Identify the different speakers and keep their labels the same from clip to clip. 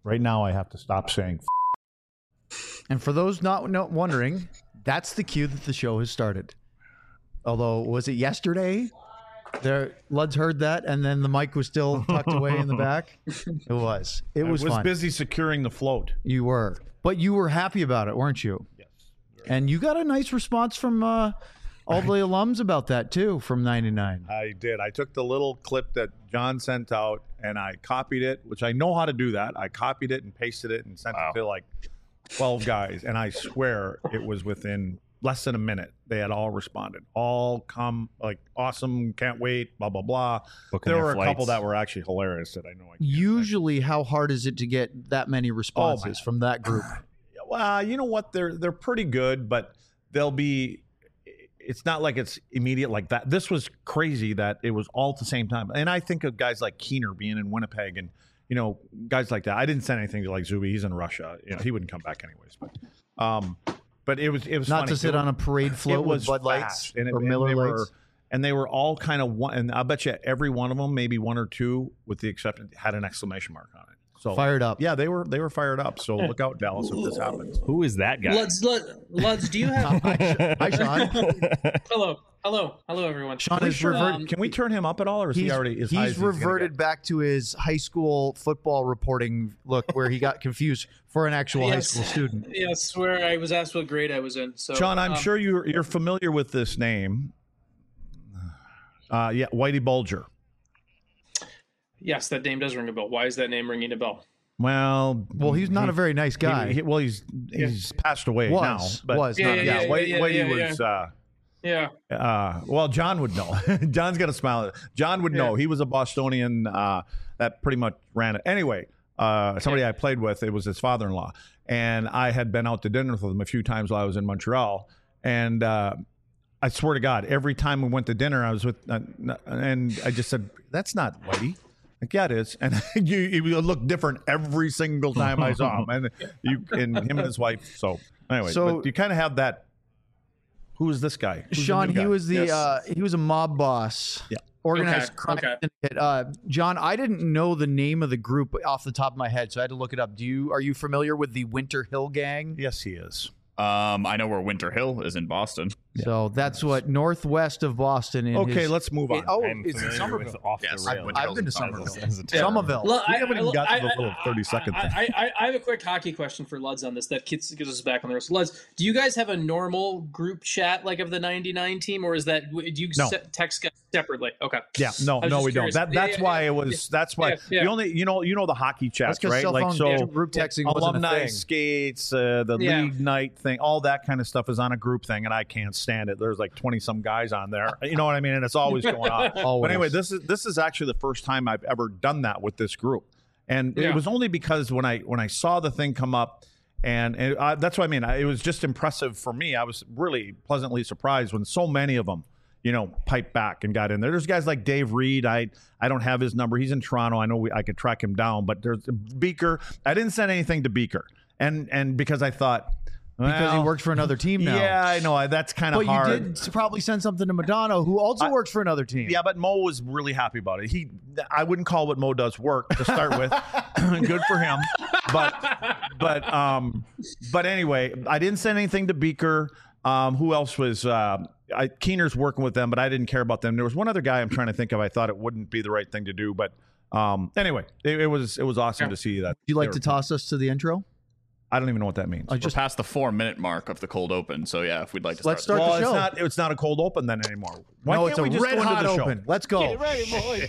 Speaker 1: Right now, I have to stop saying.
Speaker 2: And for those not wondering, that's the cue that the show has started. Although, was it yesterday? Luds heard that, and then the mic was still tucked away in the back. It was. It was fun.
Speaker 1: Busy securing the float.
Speaker 2: You were, but you were happy about it, weren't you?
Speaker 1: Yes.
Speaker 2: And you got a nice response from all the alums about that too, from 99.
Speaker 1: I did. I took the little clip that John sent out, and I copied it, which I know how to do that. I copied it and pasted it and sent it to like 12 guys, and I swear it was within less than a minute. They had all responded. All come like awesome, can't wait, blah, blah, blah. There were a couple that were actually hilarious that I know.
Speaker 2: Usually, how hard is it to get that many responses from that group?
Speaker 1: Well, you know what? They're pretty good, but they'll be. It's not like it's immediate like that. This was crazy that it was all at the same time. And I think of guys like Keener being in Winnipeg and, you know, guys like that. I didn't send anything to like Zuby. He's in Russia. You know, he wouldn't come back anyways. But it was
Speaker 2: not
Speaker 1: funny.
Speaker 2: to sit on a parade float with Bud Lights or Miller Lights.
Speaker 1: And they were all kind of one. And I'll bet you every one of them, maybe one or two, with the exception, had an exclamation mark on it. So
Speaker 2: fired up.
Speaker 1: Yeah, they were fired up. So look out, Dallas, if this happens.
Speaker 3: Who is that guy?
Speaker 4: Luds, do you have?
Speaker 2: Hi, Sean.
Speaker 4: Hello, everyone.
Speaker 2: Sean is reverted.
Speaker 1: Can we turn him up at all, or is he already?
Speaker 2: He's reverted back to his high school football reporting look, where he got confused for an actual high school student.
Speaker 4: Yes, where I was asked what grade I was in. So,
Speaker 1: Sean, I'm sure you're familiar with this name. Yeah, Whitey Bulger.
Speaker 4: Yes, that name does ring a bell. Why is that name ringing a bell?
Speaker 1: Well,
Speaker 2: he's not a very nice guy.
Speaker 1: He's passed away now. But Whitey was. Well, John would know. John's got a smile. John would know. He was a Bostonian that pretty much ran it. Anyway, somebody I played with, it was his father-in-law, and I had been out to dinner with him a few times while I was in Montreal, and I swear to God, every time we went to dinner, I was with, and I just said, "That's not Whitey." Like, yeah, it is. And you look different every single time I saw him, and him and his wife. So anyway, but you kind of have that. Who is this guy?
Speaker 2: Sean, he was he was a mob boss.
Speaker 1: Yeah.
Speaker 2: Organized crime syndicate. John, I didn't know the name of the group off the top of my head, so I had to look it up. Are you familiar with the Winter Hill Gang?
Speaker 1: Yes, he is.
Speaker 3: I know where Winter Hill is in Boston.
Speaker 2: So that's what northwest of Boston.
Speaker 1: Let's move on.
Speaker 2: It's in Somerville.
Speaker 3: Yes,
Speaker 2: I've been to Somerville.
Speaker 4: Somerville.
Speaker 1: We haven't even got to the little 30-second thing.
Speaker 4: I have a quick hockey question for Luds on this that gets us back on the rails. Luds, do you guys have a normal group chat like of the 99 team, or is that do you text guys separately? Okay.
Speaker 1: Yeah, no, we don't. That's why it was. That's why the only you know the hockey chats, right?
Speaker 2: Like group texting,
Speaker 1: alumni skates, the league night thing, all that kind of stuff is on a group thing, and I can't stand it. There's like 20 some guys on there, you know what I mean, and it's always going on. But anyway, this is actually the first time I've ever done that with this group, and it was only because when I saw the thing come up, and that's what I mean. It was just impressive for me. I was really pleasantly surprised when so many of them, piped back and got in there. There's guys like Dave Reed. I don't have his number. He's in Toronto. I know I could track him down. But there's Beaker. I didn't send anything to Beaker, and because I thought.
Speaker 2: Because he works for another team now.
Speaker 1: Yeah, I know. That's kind of hard.
Speaker 2: But you did probably send something to Madonna, who also works for another team.
Speaker 1: Yeah, but Mo was really happy about it. I wouldn't call what Mo does work to start with. Good for him. But anyway, I didn't send anything to Beaker. Who else was? Keener's working with them, but I didn't care about them. There was one other guy I'm trying to think of. I thought it wouldn't be the right thing to do, but anyway, it was awesome to see that.
Speaker 2: Would you like to toss us to the intro?
Speaker 1: I don't even know what that means.
Speaker 3: We're past the 4-minute mark of the cold open, so yeah, if we'd like to
Speaker 2: let's start the show.
Speaker 1: It's not a cold open then anymore.
Speaker 2: Why can't we just red hot open? Let's go.
Speaker 4: Get ready, boys.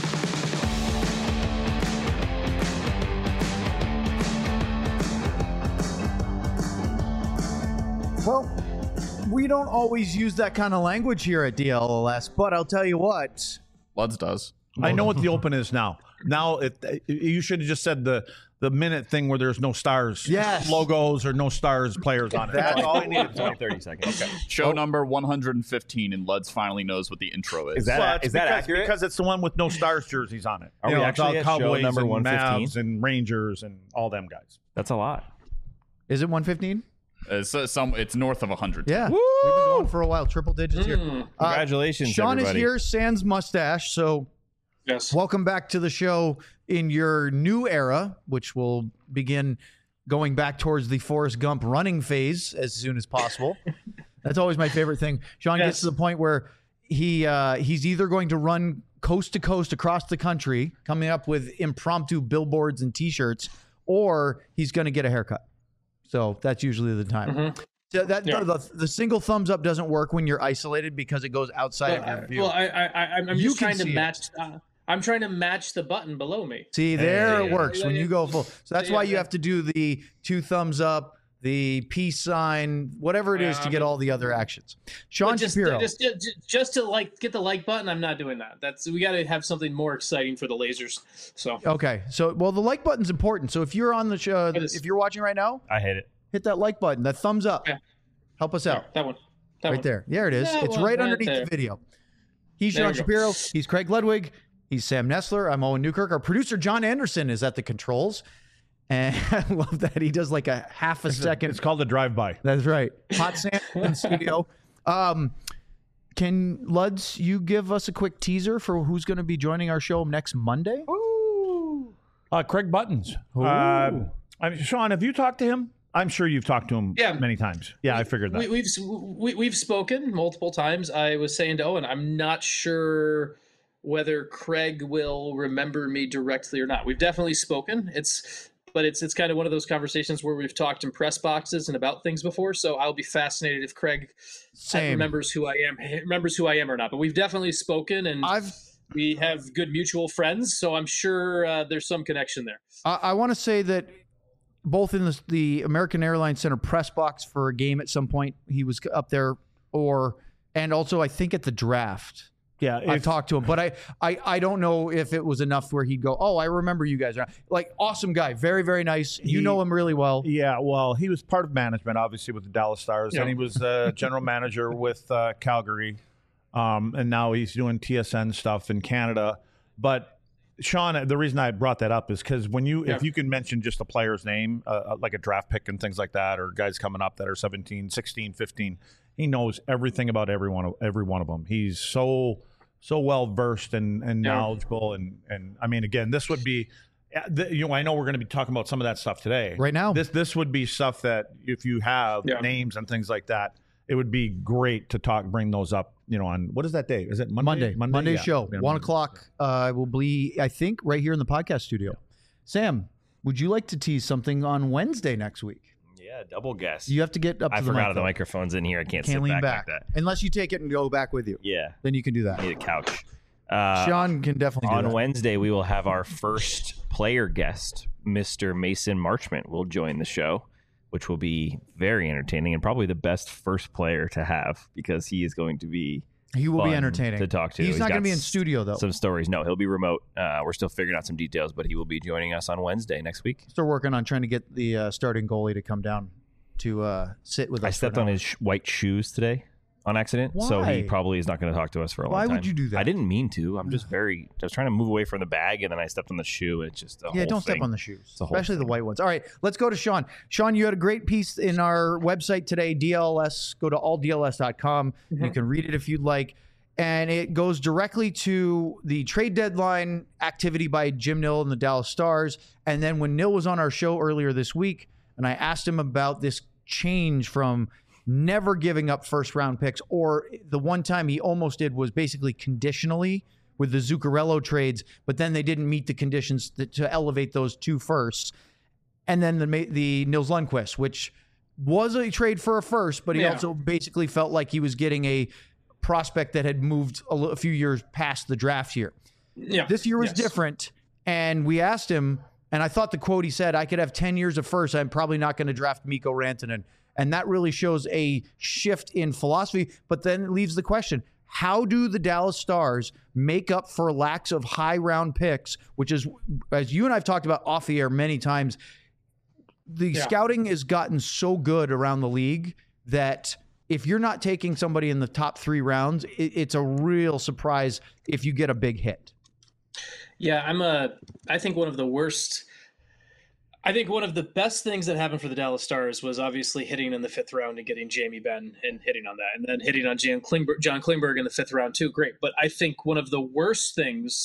Speaker 2: Well, we don't always use that kind of language here at DLLS, but I'll tell you what.
Speaker 3: Luds does.
Speaker 1: I know what the open is now. Now, you should have just said the minute thing where there's no stars, logos, or no stars players on it.
Speaker 3: That's all we needed. 30 seconds. Okay. Show number 115, and Luds finally knows what the intro is.
Speaker 1: Is that accurate? Because it's the one with no stars jerseys on it.
Speaker 3: Are we actually at
Speaker 1: Cowboys
Speaker 3: show number
Speaker 1: 115? Mavs and Rangers and all them guys.
Speaker 3: That's a lot.
Speaker 2: Is it 115?
Speaker 3: It's north of 100.
Speaker 2: Yeah. Woo! We've been going for a while. Triple digits here.
Speaker 3: Congratulations,
Speaker 2: Sean
Speaker 3: everybody.
Speaker 2: is here, sans mustache, so
Speaker 4: Yes.
Speaker 2: Welcome back to the show in your new era, which will begin going back towards the Forrest Gump running phase as soon as possible. That's always my favorite thing. Sean gets to the point where he's either going to run coast to coast across the country, coming up with impromptu billboards and T-shirts, or he's going to get a haircut. So that's usually the time. Mm-hmm. So the single thumbs up doesn't work when you're isolated because it goes outside of your view.
Speaker 4: Well, I'm just trying to match. I'm trying to match the button below me.
Speaker 2: See, it works when you go full. So that's why you have to do the 2 thumbs up, the peace sign, whatever it is to get all the other actions. Sean Shapiro.
Speaker 4: Just to get the like button, I'm not doing that. We got to have something more exciting for the lasers. So
Speaker 2: okay, the like button's important. So if you're on the show, if you're watching right now,
Speaker 3: I hate it.
Speaker 2: Hit that like button, that thumbs up. Yeah. Help us out.
Speaker 4: That one.
Speaker 2: Right there. There it is. It's right underneath the video. He's Sean Shapiro. He's Craig Ludwig. He's Sam Nestler. I'm Owen Newkirk. Our producer, John Anderson, is at the controls. And I love that he does like a half a second.
Speaker 1: It's called a drive-by.
Speaker 2: That's right. Hot Sam in the studio. Can Luds, you give us a quick teaser for who's going to be joining our show next Monday?
Speaker 1: Ooh. Craig Buttons. Sean, have you talked to him? I'm sure you've talked to him many times. Yeah, I figured that.
Speaker 4: We've spoken multiple times. I was saying to Owen, I'm not sure whether Craig will remember me directly or not. We've definitely spoken. It's kind of one of those conversations where we've talked in press boxes and about things before. So I'll be fascinated if Craig remembers who I am or not. But we've definitely spoken, and we have good mutual friends. So I'm sure there's some connection there.
Speaker 2: I want to say that both in the American Airlines Center press box for a game at some point, he was up there, and also I think at the draft.
Speaker 1: Yeah,
Speaker 2: I talked to him, but I don't know if it was enough where he'd go, oh, I remember you guys. Like, awesome guy, very, very nice. You know him really well.
Speaker 1: Yeah, well, he was part of management, obviously, with the Dallas Stars, and he was general manager with Calgary, and now he's doing TSN stuff in Canada. But Sean, the reason I brought that up is because if you can mention just a player's name, like a draft pick and things like that, or guys coming up that are 17, 16, 15, he knows everything about every one of them. He's so well versed and knowledgeable, and I mean, again, this would be, I know we're going to be talking about some of that stuff today.
Speaker 2: Right now,
Speaker 1: this would be stuff that if you have names and things like that, it would be great to bring those up. On what is that day? Is it Monday?
Speaker 2: Monday show, 1 o'clock. Will be, I think, right here in the podcast studio. Sam, would you like to tease something on Wednesday next week?
Speaker 5: Yeah, double guest.
Speaker 2: You have to get up to the
Speaker 5: mic. I forgot the microphone's in here. I can't sit
Speaker 2: lean
Speaker 5: back like that.
Speaker 2: Unless you take it and go back with you.
Speaker 5: Yeah.
Speaker 2: Then you can do that.
Speaker 5: I need a couch.
Speaker 2: Sean can definitely do that.
Speaker 5: On Wednesday, we will have our first player guest, Mr. Mason Marchment, will join the show, which will be very entertaining and probably the best first player to have because he is going to be
Speaker 2: He will be entertaining
Speaker 5: to talk to.
Speaker 2: He's not going to be in studio, though.
Speaker 5: Some stories. No, he'll be remote. We're still figuring out some details, but he will be joining us on Wednesday next week.
Speaker 2: Still working on trying to get the starting goalie to come down to sit with us.
Speaker 5: I stepped on his white shoes today on accident.
Speaker 2: Why?
Speaker 5: So he probably is not going to talk to us for a long time.
Speaker 2: Why would you do that?
Speaker 5: I didn't mean to. I was trying to move away from the bag, and then I stepped on the shoe. It's just
Speaker 2: don't step on the shoes, especially the white ones. All right, let's go to Sean. Sean, you had a great piece in our website today, DLS. Go to alldls.com. Mm-hmm. You can read it if you'd like. And it goes directly to the trade deadline activity by Jim Nill and the Dallas Stars. And then when Nill was on our show earlier this week, and I asked him about this change from never giving up first round picks, or the one time he almost did was basically conditionally with the Zuccarello trades, but then they didn't meet the conditions to elevate those 2 firsts. And then the Nils Lundqvist, which was a trade for a first, but he also basically felt like he was getting a prospect that had moved a few years past the draft year.
Speaker 4: Yeah.
Speaker 2: This year was different. And we asked him, and I thought the quote he said, I could have 10 years of first. I'm probably not going to draft Mikko Rantanen. And that really shows a shift in philosophy. But then it leaves the question, how do the Dallas Stars make up for lacks of high round picks, which is, as you and I've talked about off the air many times, the scouting has gotten so good around the league that if you're not taking somebody in the top 3 rounds, it's a real surprise if you get a big hit.
Speaker 4: Yeah, I think one of the best things that happened for the Dallas Stars was obviously hitting in the 5th round and getting Jamie Benn and hitting on that, and then hitting on John Klingberg in the 5th round too. Great. But I think one of the worst things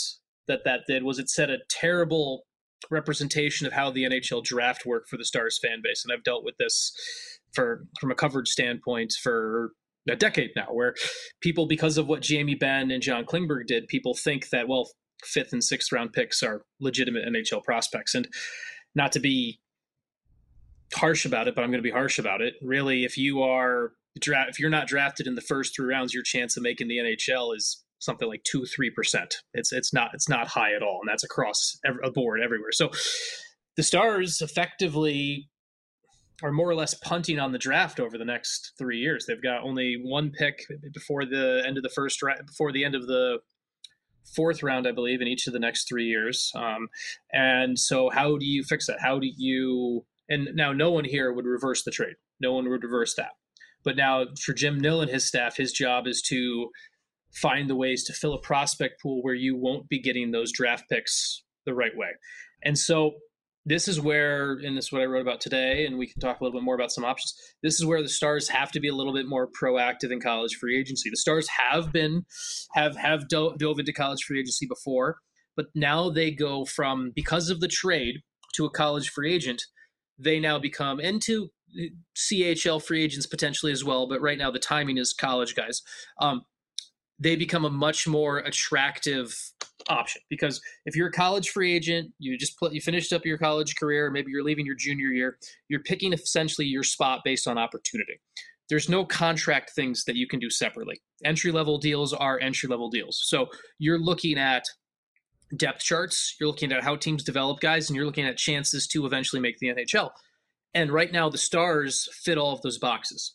Speaker 4: that did was it set a terrible representation of how the NHL draft worked for the Stars fan base. And I've dealt with this from a coverage standpoint for a decade now, where people, because of what Jamie Benn and John Klingberg did, people think that, well, 5th and 6th round picks are legitimate NHL prospects. And not to be harsh about it, but I'm going to be harsh about it. Really, if you're not drafted in the first 3 rounds, your chance of making the NHL is something like 2-3%. It's not high at all, and that's across a board everywhere. So the Stars effectively are more or less punting on the draft over the next 3 years. They've got only 1 pick before the end of the 4th round, I believe, in each of the next 3 years. And so how do you fix that? And now no one here would reverse the trade. No one would reverse that. But now for Jim Nill and his staff, his job is to find the ways to fill a prospect pool where you won't be getting those draft picks the right way. And so this is where, and this is what I wrote about today, and we can talk a little bit more about some options. This is where the Stars have to be a little bit more proactive in college free agency. The Stars have dove into college free agency before, but now they go from, because of the trade, to a college free agent. They now become into CHL free agents potentially as well, but right now the timing is college guys. They become a much more attractive option, because if you're a college free agent, you finished up your college career, maybe you're leaving your junior year, you're picking essentially your spot based on opportunity. There's no contract things that you can do separately. Entry-level deals are entry-level deals. So you're looking at depth charts, you're looking at how teams develop guys, and you're looking at chances to eventually make the NHL. And right now the Stars fit all of those boxes.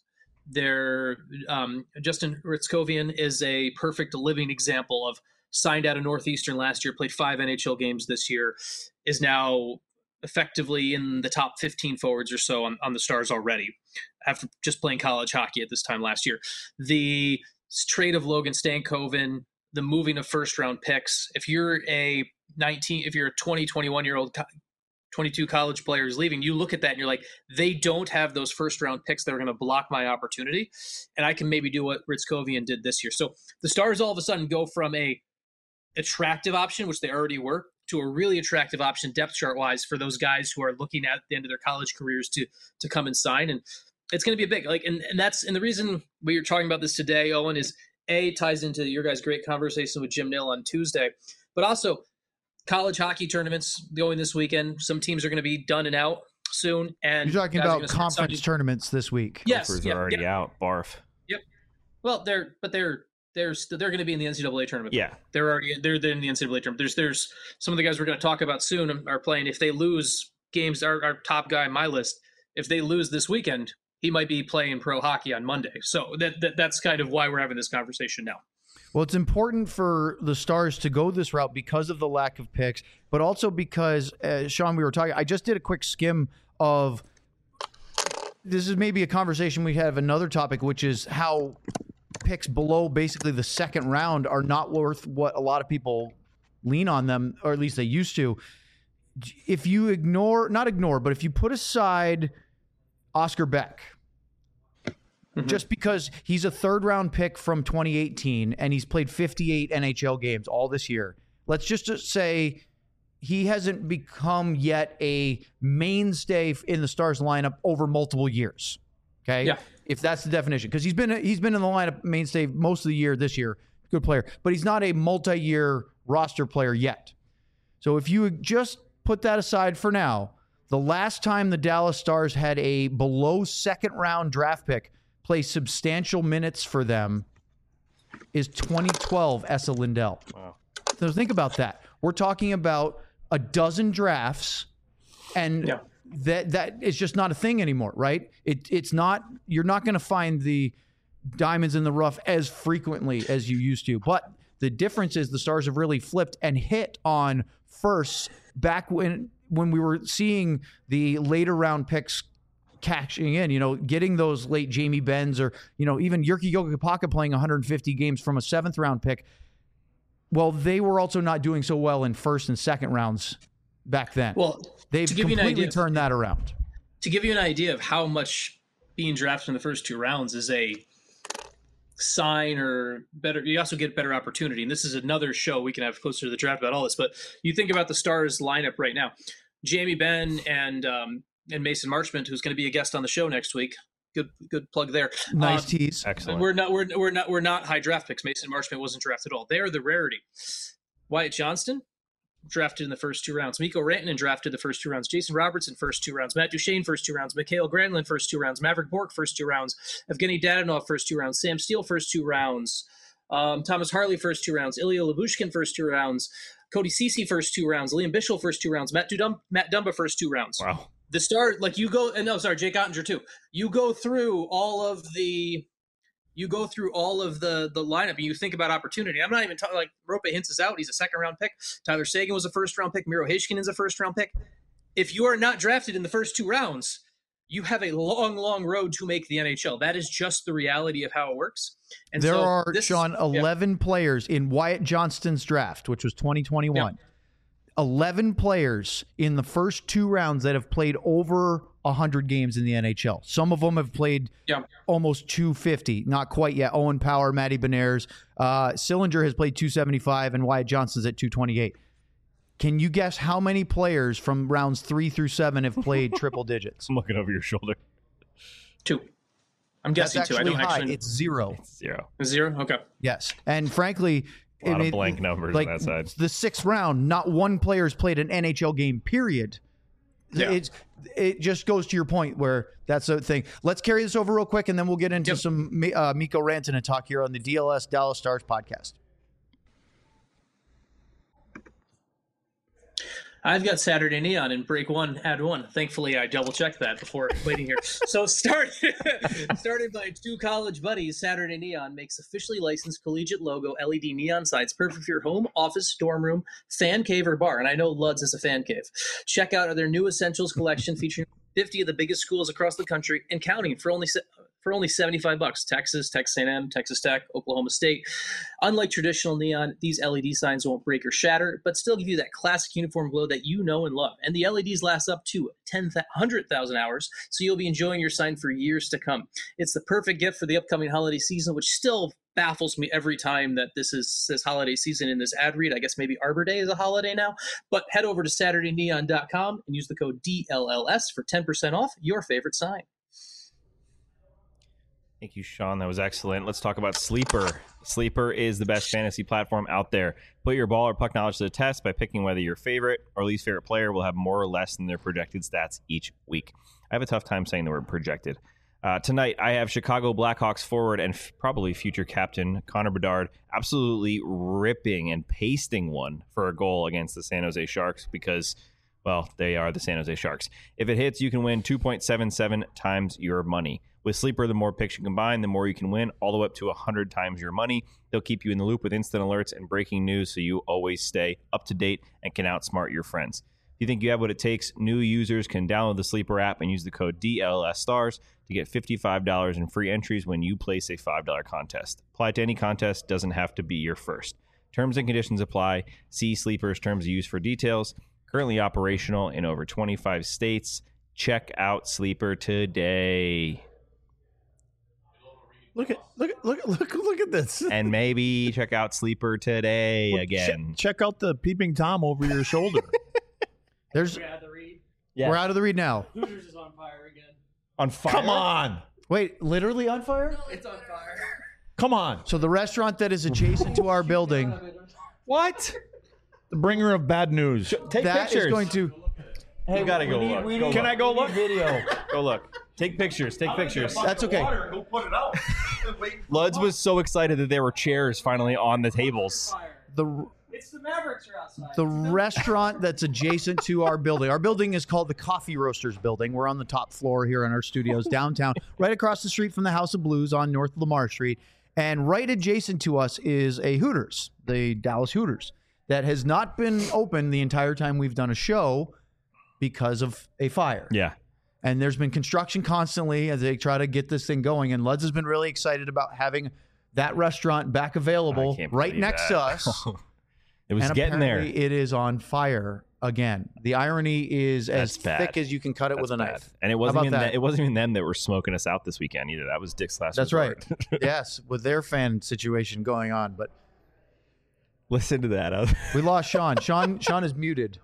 Speaker 4: Justin Ritzkovian is a perfect living example of signed out of Northeastern last year, played 5 NHL games this year, is now effectively in the top 15 forwards or so on the Stars already, after just playing college hockey at this time last year. The trade of Logan Stankoven, the moving of first round picks. If you're a 20, 21-year-old 22 college players leaving, you look at that and you're like, they don't have those first round picks that are going to block my opportunity. And I can maybe do what Ritzkovian did this year. So the Stars all of a sudden go from a attractive option, which they already were, to a really attractive option depth chart wise for those guys who are looking at the end of their college careers to come and sign. And it's going to be a big, and the reason we are talking about this today, Owen, is ties into your guys' great conversation with Jim Nill on Tuesday, but also college hockey tournaments going this weekend. Some teams are going to be done and out soon. And
Speaker 2: you're talking about conference tournaments this week.
Speaker 4: Yes,
Speaker 5: are already out. Barf.
Speaker 4: Yep. Well, they're going to be in the NCAA tournament.
Speaker 5: Yeah,
Speaker 4: they're in the NCAA tournament. There's some of the guys we're going to talk about soon are playing. If they lose games, our top guy on my list, if they lose this weekend, he might be playing pro hockey on Monday. So that's kind of why we're having this conversation now.
Speaker 2: Well, it's important for the Stars to go this route because of the lack of picks, but also because, Sean, we were talking, I just did a quick skim of, this is maybe a conversation we have another topic, which is how picks below basically the second round are not worth what a lot of people lean on them, or at least they used to. If you but if you put aside Oscar Beck, just because he's a third-round pick from 2018 and he's played 58 NHL games all this year, let's just say he hasn't become yet a mainstay in the Stars lineup over multiple years. Okay,
Speaker 4: yeah,
Speaker 2: if that's the definition, because he's been in the lineup mainstay most of the year this year, good player, but he's not a multi-year roster player yet. So if you just put that aside for now, the last time the Dallas Stars had a below second-round draft pick play substantial minutes for them is 2012 Esa Lindell.
Speaker 5: Wow.
Speaker 2: So think about that. We're talking about a dozen drafts, and that is just not a thing anymore, right? It's not. You're not going to find the diamonds in the rough as frequently as you used to. But the difference is the Stars have really flipped and hit on firsts back when we were seeing the later round picks cashing in, getting those late Jamie Benns or, even Jyrki Jokipaka playing 150 games from a 7th round pick. Well, they were also not doing so well in first and second rounds back then.
Speaker 4: Well,
Speaker 2: they've completely turned that around.
Speaker 4: To give you an idea of how much being drafted in the first 2 rounds is a sign or better, you also get better opportunity. And this is another show we can have closer to the draft about all this. But you think about the Stars lineup right now: Jamie Benn and Mason Marchment, who's going to be a guest on the show next week. Good plug there.
Speaker 2: Nice tease.
Speaker 5: Excellent.
Speaker 4: We're not high draft picks. Mason Marchment wasn't drafted at all. They are the rarity. Wyatt Johnston, drafted in the first 2 rounds. Mikko Rantanen drafted the first 2 rounds. Jason Robertson, first 2 rounds. Matt Duchene, first 2 rounds. Mikhail Granlund, first 2 rounds. Maverick Bourque, first 2 rounds. Evgeny Dadonov, first 2 rounds. Sam Steele, first 2 rounds. Thomas Harley, first 2 rounds. Ilya Lyubushkin, first 2 rounds. Cody Ceci, first 2 rounds. Liam Bichsel, first 2 rounds. Matt Dumba, first 2 rounds.
Speaker 5: Wow.
Speaker 4: The start, like you go, and no, sorry, Jake Ottinger too. You go through all of the lineup, and you think about opportunity. I'm not even talking like Roope Hintz is out; he's a 2nd round pick. Tyler Seguin was a 1st round pick. Miro Heiskanen is a 1st round pick. If you are not drafted in the first 2 rounds, you have a long road to make the NHL. That is just the reality of how it works. And
Speaker 2: there are, Sean, 11 players in Wyatt Johnston's draft, which was 2021. Yeah. 11 players in the first 2 rounds that have played over 100 games in the NHL. Some of them have played almost 250, not quite yet. Owen Power, Matty Beniers. Sillinger has played 275, and Wyatt Johnston's at 228. Can you guess how many players from rounds 3 through 7 have played triple digits?
Speaker 5: I'm looking over your shoulder.
Speaker 4: 2. I'm guessing
Speaker 2: That's
Speaker 4: 2. I don't
Speaker 2: high.
Speaker 4: actually.
Speaker 2: It's 0.
Speaker 5: It's 0.
Speaker 4: 0? Okay.
Speaker 2: Yes. And frankly,
Speaker 5: a lot of blank numbers on that side.
Speaker 2: The 6th round, not one player's played an NHL game, period. Yeah. It just goes to your point where that's a thing. Let's carry this over real quick, and then we'll get into some Mikko Rantanen talk here on the DLS Dallas Stars podcast.
Speaker 4: I've got Saturday Neon in break 1, ad 1. Thankfully, I double-checked that before waiting here. So started by 2 college buddies, Saturday Neon makes officially licensed collegiate logo LED neon signs perfect for your home, office, dorm room, fan cave, or bar. And I know Luds is a fan cave. Check out their new Essentials collection featuring 50 of the biggest schools across the country and counting for only $75. Texas, Texas A&M, Texas Tech, Oklahoma State. Unlike traditional neon, these LED signs won't break or shatter, but still give you that classic uniform glow that you know and love. And the LEDs last up to 100,000 hours, so you'll be enjoying your sign for years to come. It's the perfect gift for the upcoming holiday season, which still baffles me every time that this holiday season in this ad read. I guess maybe Arbor Day is a holiday now. But head over to SaturdayNeon.com and use the code DLLS for 10% off your favorite sign.
Speaker 5: Thank you, Sean. That was excellent. Let's talk about Sleeper. Sleeper is the best fantasy platform out there. Put your ball or puck knowledge to the test by picking whether your favorite or least favorite player will have more or less than their projected stats each week. I have a tough time saying the word projected. Tonight, I have Chicago Blackhawks forward and probably future captain Connor Bedard absolutely ripping and pasting one for a goal against the San Jose Sharks because, well, they are the San Jose Sharks. If it hits, you can win 2.77 times your money. With Sleeper, the more picks you combine, the more you can win, all the way up to 100 times your money. They'll keep you in the loop with instant alerts and breaking news so you always stay up to date and can outsmart your friends. If you think you have what it takes, new users can download the Sleeper app and use the code DLSSTARS to get $55 in free entries when you place a $5 contest. Apply to any contest, doesn't have to be your first. Terms and conditions apply. See Sleeper's terms of use for details. Currently operational in over 25 states. Check out Sleeper today.
Speaker 1: Look at this.
Speaker 5: And maybe check out Sleeper today again.
Speaker 1: Check out the peeping Tom over your shoulder.
Speaker 2: We're out of the read now.
Speaker 4: Hooters is on fire again.
Speaker 5: On fire?
Speaker 1: Come on.
Speaker 2: Wait, literally on fire?
Speaker 4: No, it's on fire.
Speaker 1: Come on.
Speaker 2: So the restaurant that is adjacent to our building.
Speaker 5: What?
Speaker 1: The bringer of bad news.
Speaker 5: Take
Speaker 2: that
Speaker 5: pictures.
Speaker 2: Is going to.
Speaker 5: Hey, you gotta go look.
Speaker 1: Can I go look?
Speaker 2: Video.
Speaker 5: Go look. Take pictures. Take pictures.
Speaker 2: That's okay.
Speaker 1: Go put it out.
Speaker 5: Luds was so excited that there were chairs finally on the tables.
Speaker 4: It's the Mavericks are outside.
Speaker 2: The restaurant that's adjacent to our building. Our building is called the Coffee Roasters Building. We're on the top floor here in our studios downtown, right across the street from the House of Blues on North Lamar Street. And right adjacent to us is a Hooters, the Dallas Hooters, that has not been open the entire time we've done a show because of a fire.
Speaker 5: Yeah.
Speaker 2: And there's been construction constantly as they try to get this thing going. And Luds has been really excited about having that restaurant back available right next to us.
Speaker 5: It was getting there.
Speaker 2: It is on fire again. The irony is as thick as you can cut it with a knife.
Speaker 5: And it wasn't even them that were smoking us out this weekend either. That was Dick's Last
Speaker 2: Resort. That's right. Yes, with their fan situation going on. But
Speaker 5: listen to that.
Speaker 2: We lost Sean. Sean is muted.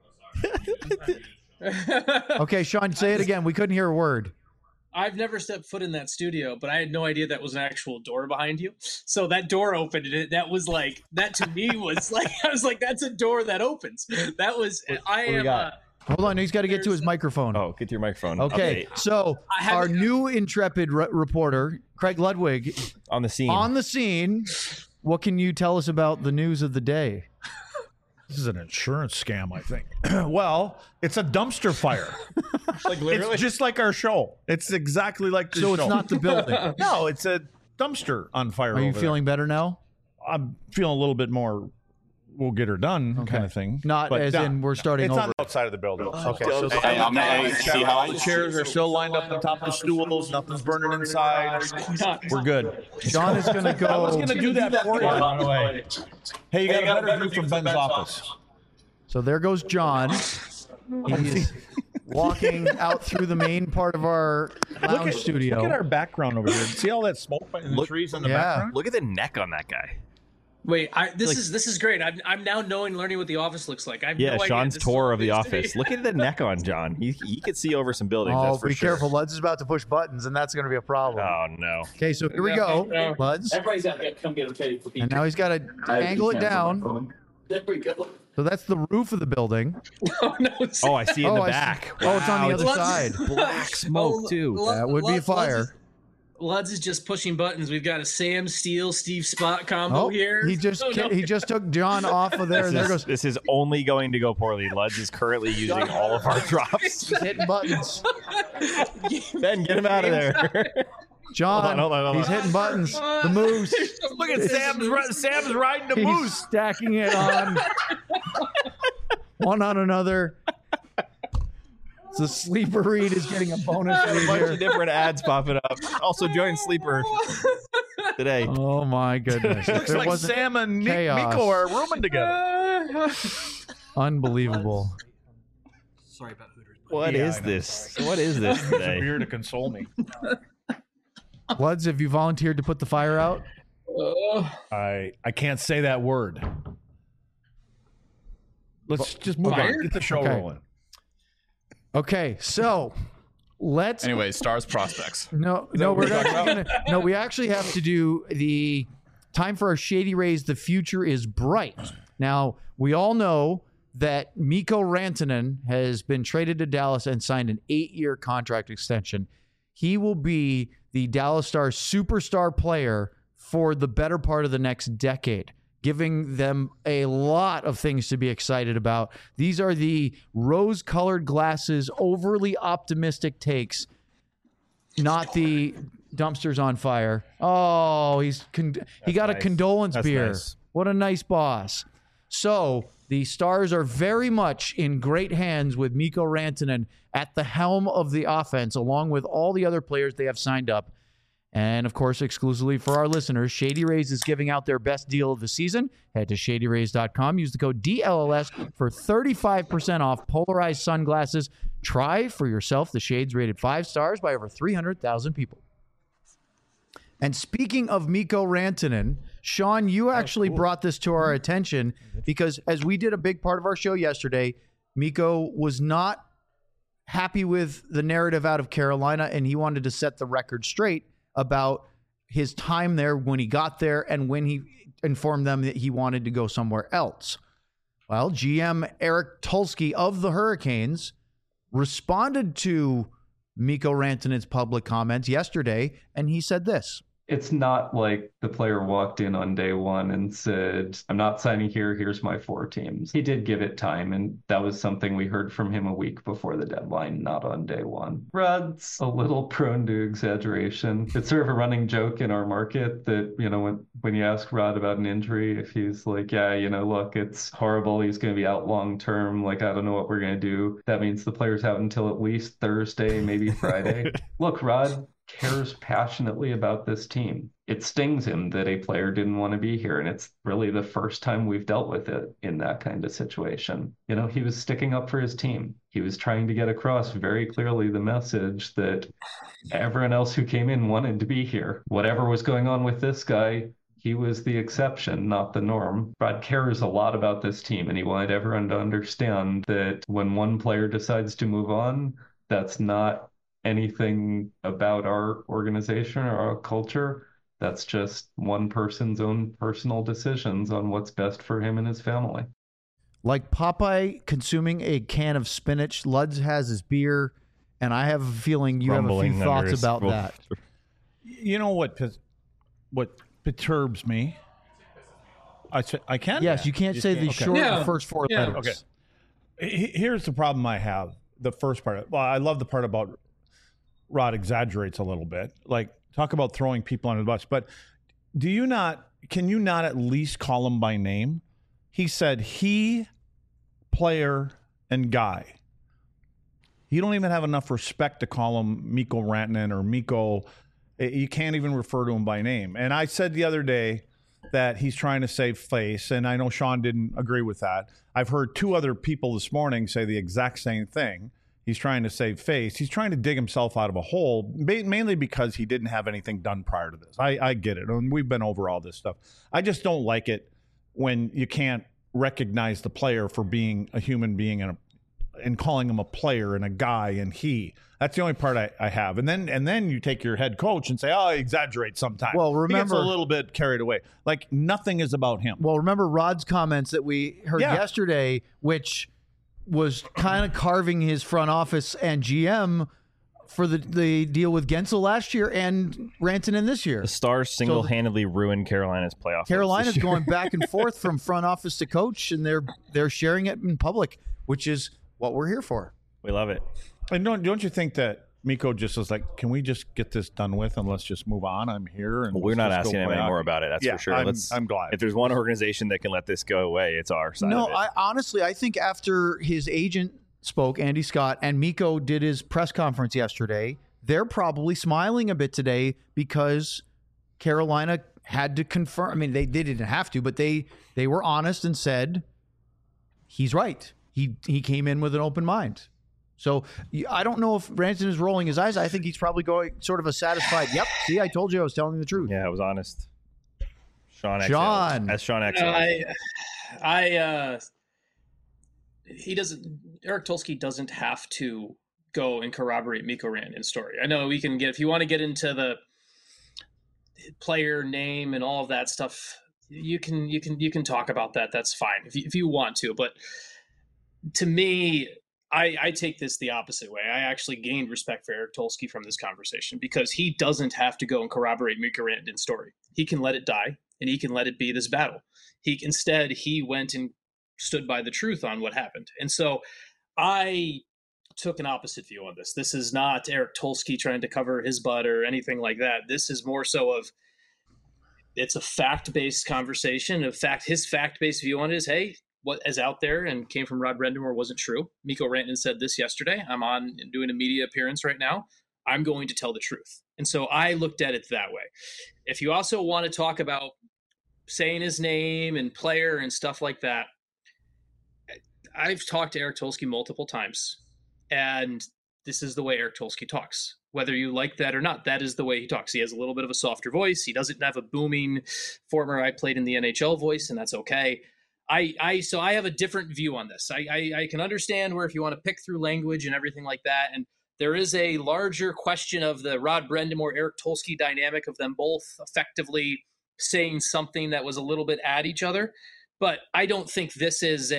Speaker 2: Okay, Sean, say it again. We couldn't hear a word.
Speaker 4: I've never stepped foot in that studio, but I had no idea that was an actual door behind you. So that door opened, and that was like, that to me was like, I was like, that's a door that opens. That was,
Speaker 2: Hold on, he's got to get to his microphone.
Speaker 5: Oh, get to your microphone.
Speaker 2: Okay, so our new intrepid reporter, Craig Ludwig.
Speaker 5: On the scene.
Speaker 2: On the scene. What can you tell us about the news of the day?
Speaker 1: This is an insurance scam, I think. Well, it's a dumpster fire.
Speaker 3: Like literally?
Speaker 1: It's just like our show. It's exactly like the show.
Speaker 2: So it's not the building.
Speaker 1: No, it's a dumpster on fire.
Speaker 2: Are you feeling better now?
Speaker 1: I'm feeling a little bit more, we'll get her done kind of thing.
Speaker 2: Not as in we're starting over.
Speaker 1: It's on the outside of the building.
Speaker 2: Okay.
Speaker 1: So see how the chairs are still lined up on top of the stools. Nothing's burning inside. We're good.
Speaker 2: John is going to go.
Speaker 1: I was going to do that for you, by the way. Hey, you got a better view from Ben's office.
Speaker 2: So there goes John. He's walking out through the main part of our lounge studio.
Speaker 1: Look at our background over here. See all that smoke and the trees in the background?
Speaker 5: Look at the neck on that guy.
Speaker 4: Wait, this is great. I'm now learning what the office looks like. I have no idea.
Speaker 5: Sean's tour of the office. Look at the neck on John. He could see over some buildings. That's for
Speaker 2: be careful. Luds is about to push buttons, and that's going to be a problem.
Speaker 5: Oh no.
Speaker 2: Okay, so here we go, Luds.
Speaker 6: Everybody's out there. Come get them.
Speaker 2: And now he's got to angle it down.
Speaker 6: There we go.
Speaker 2: So that's the roof of the building.
Speaker 5: Oh, I see in the back.
Speaker 2: Oh, it's on the other side.
Speaker 5: Black smoke too.
Speaker 2: That would be fire.
Speaker 4: Luds is just pushing buttons. We've got a Sam Steele, Steve Spot combo here.
Speaker 2: He just took John off of there.
Speaker 5: This is only going to go poorly. Luds is currently using all of our drops.
Speaker 2: He's hitting buttons.
Speaker 5: Ben, get him out of there.
Speaker 2: John, hold on. He's hitting buttons. The moose.
Speaker 1: Look at Sam's riding the moose.
Speaker 2: He's stacking it on one on another. The Sleeper read is getting a bonus read
Speaker 5: a bunch
Speaker 2: here.
Speaker 5: of different ads popping up. Also join Sleeper today.
Speaker 2: Oh my goodness!
Speaker 1: Looks like Sam and Miko are rooming together.
Speaker 2: Unbelievable.
Speaker 6: Sorry about Hooters.
Speaker 5: What is this? What is this today?
Speaker 1: Here to console me.
Speaker 2: Luds, have you volunteered to put the fire out?
Speaker 1: I can't say that word. Let's just move on. Get the show rolling.
Speaker 2: Okay, so let's.
Speaker 3: Anyway, Stars prospects.
Speaker 2: No, we're actually gonna. No, we actually have to do the time for our Shady Rays. The future is bright. Now we all know that Mikko Rantanen has been traded to Dallas and signed an 8-year contract extension. He will be the Dallas Stars superstar player for the better part of the next decade, giving them a lot of things to be excited about. These are the rose-colored glasses, overly optimistic takes, not the dumpsters on fire. Oh, he got nice. A condolence beer. Nice. What a nice boss. So the Stars are very much in great hands with Mikko Rantanen at the helm of the offense, along with all the other players they have signed up. And, of course, exclusively for our listeners, Shady Rays is giving out their best deal of the season. Head to ShadyRays.com. Use the code DLLS for 35% off polarized sunglasses. Try for yourself the shades rated 5 stars by over 300,000 people. And speaking of Mikko Rantanen, Sean, you actually brought this to our attention because as we did a big part of our show yesterday, Mikko was not happy with the narrative out of Carolina, and he wanted to set the record straight about his time there when he got there and when he informed them that he wanted to go somewhere else. Well, GM Eric Tulsky of the Hurricanes responded to Mikko Rantanen's public comments yesterday, and he said this.
Speaker 7: It's not like the player walked in on day one and said, I'm not signing here, here's my 4 teams. He did give it time, and that was something we heard from him a week before the deadline, not on day one. Rod's a little prone to exaggeration. It's sort of a running joke in our market that, when you ask Rod about an injury, if he's like, yeah, look, it's horrible, he's going to be out long term, like, I don't know what we're going to do. That means the player's out until at least Thursday, maybe Friday. Look, Rod cares passionately about this team. it stings him that a player didn't want to be here. And it's really the first time we've dealt with it in that kind of situation. You know, he was sticking up for his team. He was trying to get across very clearly the message that everyone else who came in wanted to be here. Whatever was going on with this guy, he was the exception, not the norm. Rod cares a lot about this team, and he wanted everyone to understand that when one player decides to move on, that's not anything about our organization or our culture. That's just one person's own personal decisions on what's best for him and his family.
Speaker 2: Like Popeye consuming a can of spinach, Luds has his beer, and I have a feeling you have a few thoughts about that.
Speaker 1: You know what perturbs me? I can?
Speaker 2: Yes, you can't say the first four letters.
Speaker 1: Okay. Here's the problem I have. The first part. Well, I love the part about Rod exaggerates a little bit. Like, talk about throwing people under the bus. But can you not at least call him by name? He said he, player, and guy. You don't even have enough respect to call him Mikko Rantanen or Mikko. You can't even refer to him by name. And I said the other day that he's trying to save face, and I know Sean didn't agree with that. I've heard two other people this morning say the exact same thing. He's trying to save face. He's trying to dig himself out of a hole, mainly because he didn't have anything done prior to this. I get it, and we've been over all this stuff. I just don't like it when you can't recognize the player for being a human being and calling him a player and a guy and he. That's the only part I have. And then you take your head coach and say, oh, I exaggerate sometimes.
Speaker 2: Well, remember,
Speaker 1: he gets a little bit carried away. Like, nothing is about him.
Speaker 2: Well, remember Rod's comments that we heard yesterday, which was kind of carving his front office and GM for the deal with Gensel last year and Rantanen this year.
Speaker 5: The Stars single-handedly ruined Carolina's playoff.
Speaker 2: Carolina's going back and forth from front office to coach, and they're sharing it in public, which is what we're here for.
Speaker 5: We love it.
Speaker 1: And don't you think that Mikko just was like, can we just get this done with and let's just move on? I'm here. And
Speaker 5: we're not asking him anymore about it. That's for sure.
Speaker 1: I'm glad.
Speaker 5: If there's one organization that can let this go away, it's our side of it.
Speaker 2: I think after his agent spoke, Andy Scott, and Mikko did his press conference yesterday, they're probably smiling a bit today because Carolina had to confirm. I mean, they didn't have to, but they were honest and said, he's right. He came in with an open mind. So I don't know if Rantanen is rolling his eyes. I think he's probably going sort of a satisfied, yep, see, I told you I was telling you the truth.
Speaker 5: Yeah, I was honest. Sean. As Sean X.
Speaker 4: Eric Tulsky doesn't have to go and corroborate Mikko Rantanen's story. I know we can if you want to get into the player name and all of that stuff, you can talk about that. That's fine if you want to. But to me, I take this the opposite way. I actually gained respect for Eric Tulsky from this conversation because he doesn't have to go and corroborate Mikko Rantanen's story. He can let it die and he can let it be this battle. Instead, he went and stood by the truth on what happened. And so I took an opposite view on this. This is not Eric Tulsky trying to cover his butt or anything like that. This is more so of it's a fact-based conversation. His fact-based view on it is, hey, what is out there and came from Rod Brind'Amour wasn't true. Mikko Rantanen said this yesterday. I'm on and doing a media appearance right now. I'm going to tell the truth. And so I looked at it that way. If you also want to talk about saying his name and player and stuff like that, I've talked to Eric Tulsky multiple times, and this is the way Eric Tulsky talks. Whether you like that or not, that is the way he talks. He has a little bit of a softer voice. He doesn't have a booming former I played in the NHL voice, and that's okay. So I have a different view on this. I can understand where if you want to pick through language and everything like that, and there is a larger question of the Rod Brind'Amour, Eric Tulsky dynamic of them both effectively saying something that was a little bit at each other. But I don't think this is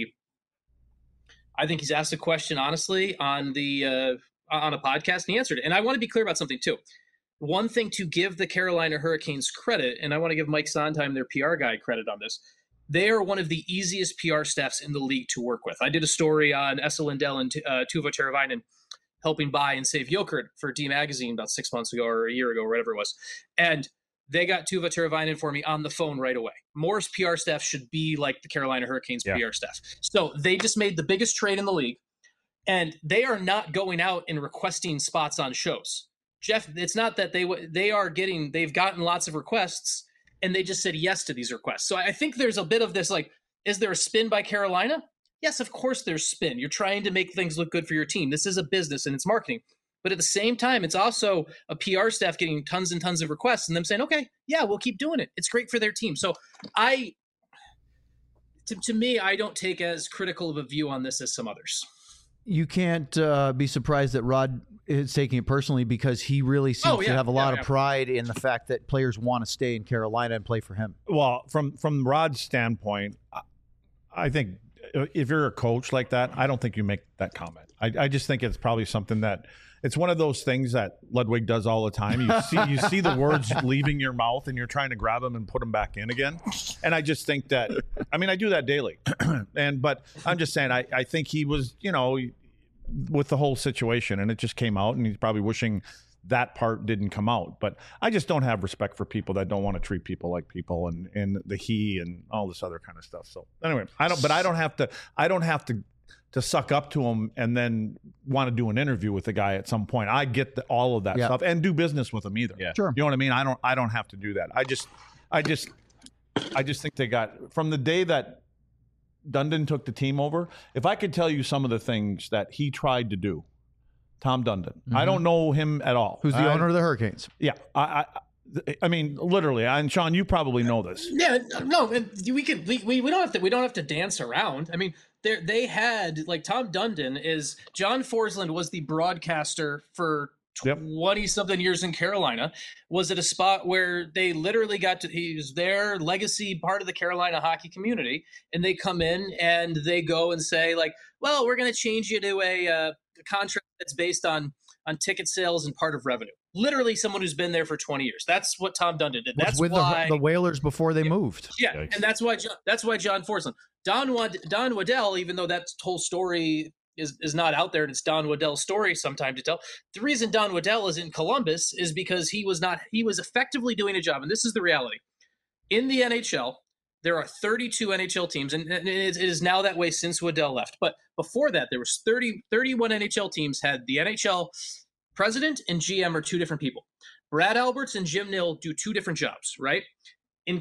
Speaker 4: I think he's asked a question honestly on a podcast and he answered it. And I want to be clear about something too. One thing to give the Carolina Hurricanes credit, and I want to give Mike Sondheim, their PR guy, credit on this. They are one of the easiest PR staffs in the league to work with. I did a story on Esa Lindell and Tuva Teravainen helping buy and save Jokert for D Magazine about 6 months ago or a year ago, or whatever it was. And they got Tuva Teravainen for me on the phone right away. Moore's PR staff should be like the Carolina Hurricanes PR staff. So they just made the biggest trade in the league, and they are not going out and requesting spots on shows. Jeff, it's not that they've gotten lots of requests and they just said yes to these requests. So I think there's a bit of this, like, is there a spin by Carolina? Yes, of course there's spin. You're trying to make things look good for your team. This is a business and it's marketing. But at the same time, it's also a PR staff getting tons and tons of requests and them saying, okay, yeah, we'll keep doing it. It's great for their team. So to me, I don't take as critical of a view on this as some others.
Speaker 2: You can't be surprised that Rod is taking it personally, because he really seems to have a lot of pride in the fact that players want to stay in Carolina and play for him.
Speaker 1: Well, from Rod's standpoint, I think if you're a coach like that, I don't think you make that comment. I just think it's probably something that it's one of those things that Ludwig does all the time. You see the words leaving your mouth and you're trying to grab them and put them back in again. And I just think that, I mean, I do that daily. But I'm just saying, I think he was, with the whole situation, and it just came out, and he's probably wishing that part didn't come out. But I just don't have respect for people that don't want to treat people like people, and the he and all this other kind of stuff. So anyway, I don't have to suck up to him and then want to do an interview with the guy at some point. I get all of that stuff, and do business with him either.
Speaker 5: Yeah.
Speaker 2: Sure.
Speaker 1: You know what I mean? I don't have to do that. I just think they got, from the day that Dundon took the team over, if I could tell you some of the things that he tried to do, Tom Dundon. Mm-hmm. I don't know him at all.
Speaker 2: Who's the owner of the Hurricanes?
Speaker 1: Yeah. I mean, literally, and Sean, you probably know this.
Speaker 4: Yeah, no, we don't have to dance around. I mean, they had, like, Tom Dundon is, John Forsland was the broadcaster for 20-something years in Carolina, was at a spot where they literally he was their legacy part of the Carolina hockey community, and they come in and they go and say, like, well, we're going to change you to a contract that's based on ticket sales and part of revenue. Literally someone who's been there for 20 years. That's what Tom Dundon did. That's
Speaker 2: with
Speaker 4: why
Speaker 2: the Whalers before they moved.
Speaker 4: Yeah, and that's why John Forsland. Don Waddell, even though that whole story is not out there, and it's Don Waddell's story sometime to tell. The reason Don Waddell is in Columbus is because he was effectively doing a job, and this is the reality. In the NHL, there are 32 NHL teams, and it is now that way since Waddell left. But before that, there was 31 NHL teams had the NHL president and GM are two different people. Brad Alberts and Jim Nill do two different jobs, right? In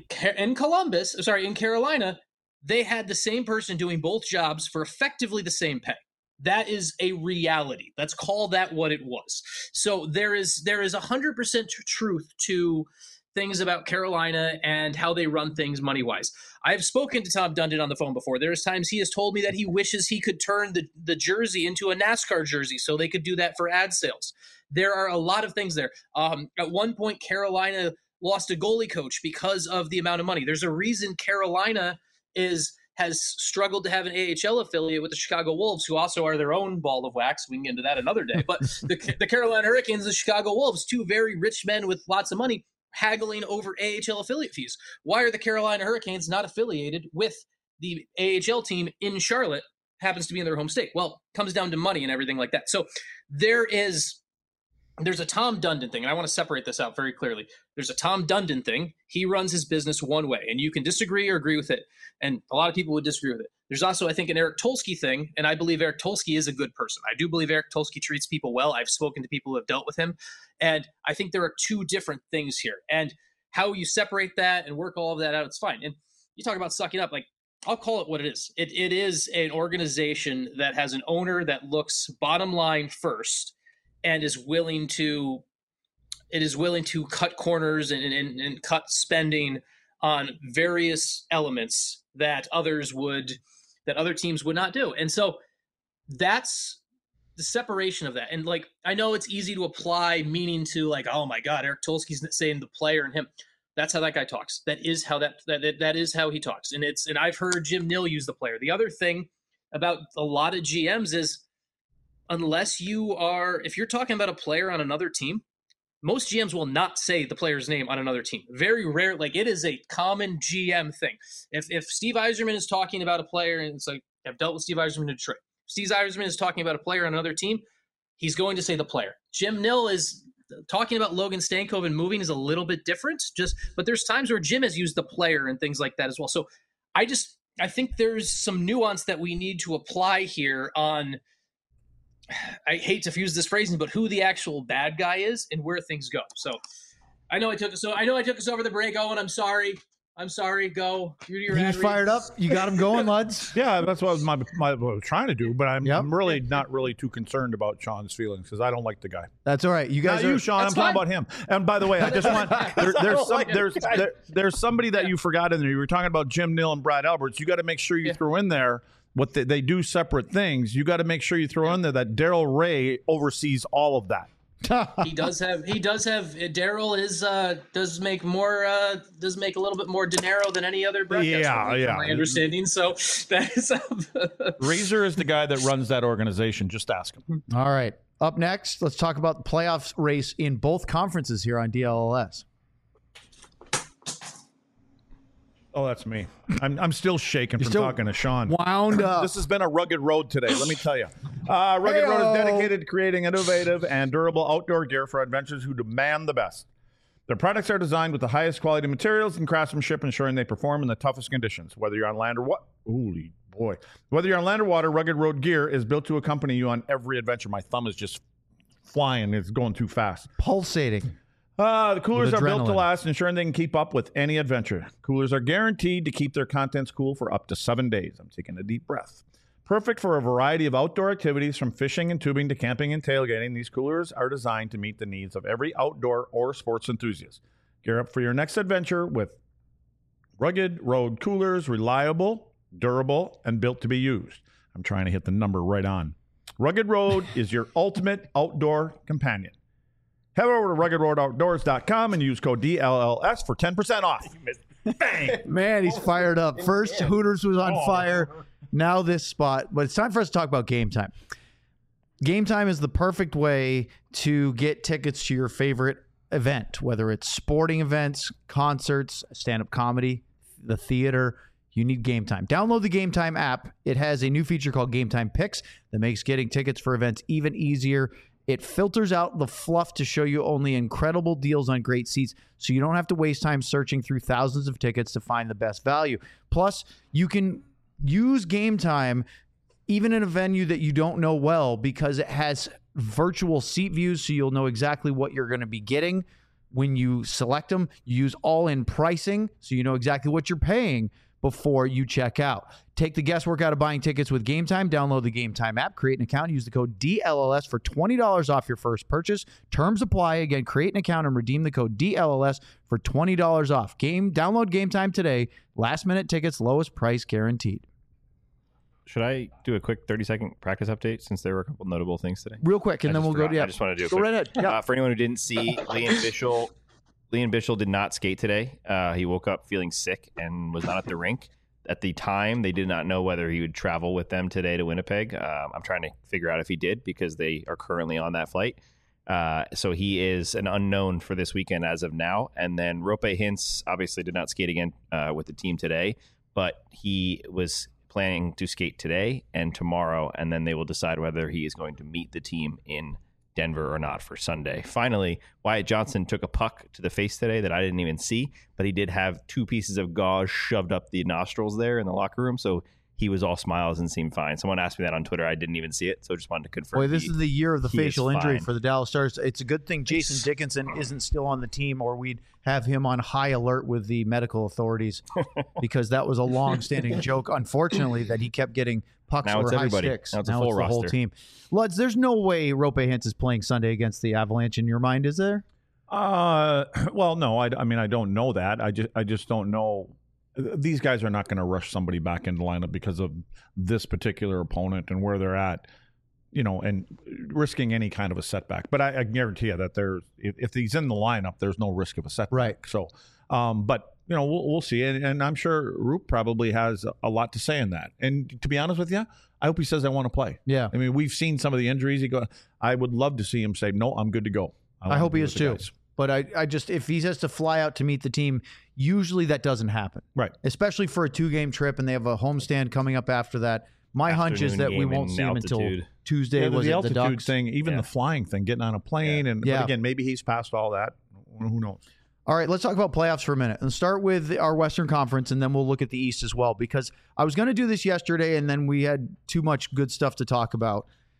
Speaker 4: Carolina, they had the same person doing both jobs for effectively the same pay. That is a reality. Let's call that what it was. So there is 100% truth to things about Carolina and how they run things money-wise. I've spoken to Tom Dundon on the phone before. There's times he has told me that he wishes he could turn the jersey into a NASCAR jersey so they could do that for ad sales. There are a lot of things there. At one point, Carolina lost a goalie coach because of the amount of money. There's a reason Carolina has struggled to have an AHL affiliate with the Chicago Wolves, who also are their own ball of wax. We can get into that another day. But the Carolina Hurricanes and the Chicago Wolves, two very rich men with lots of money, haggling over AHL affiliate fees. Why are the Carolina Hurricanes not affiliated with the AHL team in Charlotte? Happens to be in their home state. Well, it comes down to money and everything like that. So there's a Tom Dundon thing, and I want to separate this out very clearly. There's a Tom Dundon thing. He runs his business one way, and you can disagree or agree with it, and a lot of people would disagree with it. There's also, I think, an Eric Tulsky thing, and I believe Eric Tulsky is a good person. I do believe Eric Tulsky treats people well. I've spoken to people who have dealt with him, and I think there are two different things here. And how you separate that and work all of that out, it's fine. And you talk about sucking up, like, I'll call it what it is. It is an organization that has an owner that looks bottom line first, and is willing to cut corners and cut spending on various elements that other teams would not do. And so that's the separation of that. And, like, I know it's easy to apply meaning to, like, oh my God, Eric Tulsky's saying the player and him. That's how that guy talks. That is how that is how he talks. And I've heard Jim Nill use the player. The other thing about a lot of GMs is, if you're talking about a player on another team, most GMs will not say the player's name on another team. Very rare. Like, it is a common GM thing. If Steve Yzerman is talking about a player, and it's like, I've dealt with Steve Yzerman in Detroit. Steve Yzerman is talking about a player on another team, he's going to say the player. Jim Nill is talking about Logan Stankoven moving is a little bit different, but there's times where Jim has used the player and things like that as well. So I think there's some nuance that we need to apply here on I hate to use this phrasing, but who the actual bad guy is and where things go. So I know I took us over the break. Owen, I'm sorry. Go.
Speaker 2: He's fired up. You got him going, Luds.
Speaker 1: Yeah, that's what I was trying to do. But I'm really not really too concerned about Sean's feelings because I don't like the guy.
Speaker 2: That's all right. You guys,
Speaker 1: not you, Sean. I'm talking about him. And by the way, I just want there's somebody that you forgot in there. You were talking about Jim Nill and Brad Alberts. You got to make sure you throw in there what they do separate things. You got to make sure you throw in there that Daryl Ray oversees all of that.
Speaker 4: He does have Daryl does make a little bit more dinero than any other broadcaster.
Speaker 1: Yeah.
Speaker 4: My understanding. So that is
Speaker 1: Razor is the guy that runs that organization. Just ask him.
Speaker 2: All right. Up next, let's talk about the playoffs race in both conferences here on DLLS.
Speaker 1: Oh, that's me. I'm still shaking from talking to Sean.
Speaker 2: Wound up.
Speaker 1: This has been a rugged road today, let me tell you. Rugged Road is dedicated to creating innovative and durable outdoor gear for adventurers who demand the best. Their products are designed with the highest quality materials and craftsmanship, ensuring they perform in the toughest conditions. Whether you're on land or what? Holy boy. Whether you're on land or water, Rugged Road gear is built to accompany you on every adventure. My thumb is just flying. It's going too fast.
Speaker 2: Pulsating.
Speaker 1: The coolers are built to last, ensuring they can keep up with any adventure. Coolers are guaranteed to keep their contents cool for up to 7 days. I'm taking a deep breath. Perfect for a variety of outdoor activities, from fishing and tubing to camping and tailgating. These coolers are designed to meet the needs of every outdoor or sports enthusiast. Gear up for your next adventure with Rugged Road coolers, reliable, durable, and built to be used. I'm trying to hit the number right on. Rugged Road is your ultimate outdoor companion. Head over to RuggedRoadOutdoors.com and use code DLLS for 10% off. Bang!
Speaker 2: Man, he's fired up. First, Hooters was on fire. Now this spot. But it's time for us to talk about Game Time. Game Time is the perfect way to get tickets to your favorite event, whether it's sporting events, concerts, stand-up comedy, the theater. You need Game Time. Download the Game Time app. It has a new feature called Game Time Picks that makes getting tickets for events even easier. It filters out the fluff to show you only incredible deals on great seats, so you don't have to waste time searching through thousands of tickets to find the best value. Plus, you can use Game Time even in a venue that you don't know well, because it has virtual seat views, so you'll know exactly what you're going to be getting when you select them. You use all-in pricing, so you know exactly what you're paying before you check out. Take the guesswork out of buying tickets with Game Time. Download the Game Time app, create an account, use the code DLLS for $20 off your first purchase. Terms apply. Again, create an account and redeem the code DLLS for $20 off. Download Game Time today. Last minute tickets, lowest price guaranteed.
Speaker 5: Should I do a quick 30-second practice update since there were a couple notable things today?
Speaker 2: Real quick, and then we'll go.
Speaker 5: I just want to do a
Speaker 2: quick. Go right ahead. Yeah.
Speaker 5: For anyone who didn't see, Liam Bichel did not skate today. He woke up feeling sick and was not at the rink. At the time, they did not know whether he would travel with them today to Winnipeg. I'm trying to figure out if he did, because they are currently on that flight. So he is an unknown for this weekend as of now. And then Rope Hintz obviously did not skate again with the team today, but he was planning to skate today and tomorrow, and then they will decide whether he is going to meet the team in Denver or not for Sunday. Finally, Wyatt Johnson took a puck to the face today that I didn't even see, but he did have 2 pieces of gauze shoved up the nostrils there in the locker room, so he was all smiles and seemed fine. Someone asked me that on Twitter. I didn't even see it, so just wanted to confirm.
Speaker 2: Boy, this is the year of the facial injury for the Dallas Stars. It's a good thing Jason Dickinson isn't still on the team, or we'd have him on high alert with the medical authorities, because that was a long-standing joke, unfortunately, that he kept getting pucks or high sticks.
Speaker 5: Now it's a full roster.
Speaker 2: The whole team. Luds, there's no way Rope Hintz is playing Sunday against the Avalanche in your mind, is there?
Speaker 1: Well, no. I mean, I don't know that. I just don't know. These guys are not going to rush somebody back into lineup because of this particular opponent and where they're at, and risking any kind of a setback. But I guarantee you that if he's in the lineup, there's no risk of a setback.
Speaker 2: Right.
Speaker 1: So, but we'll see. And I'm sure Roop probably has a lot to say in that. And to be honest with you, I hope he says I want to play.
Speaker 2: Yeah.
Speaker 1: I mean, we've seen some of the injuries. I would love to see him say, no, I'm good to go.
Speaker 2: I hope he is too. But I just, if he has to fly out to meet the team, usually that doesn't happen.
Speaker 1: Right.
Speaker 2: Especially for a 2-game trip, and they have a homestand coming up after that. My hunch is that we won't see him until Tuesday.
Speaker 1: Yeah,
Speaker 2: was
Speaker 1: the
Speaker 2: it
Speaker 1: altitude
Speaker 2: the Ducks
Speaker 1: thing, even the flying thing, getting on a plane, but again, maybe he's past all that. Who knows?
Speaker 2: All right, let's talk about playoffs for a minute and start with our Western Conference, and then we'll look at the East as well, because I was going to do this yesterday, and then we had too much good stuff to talk about.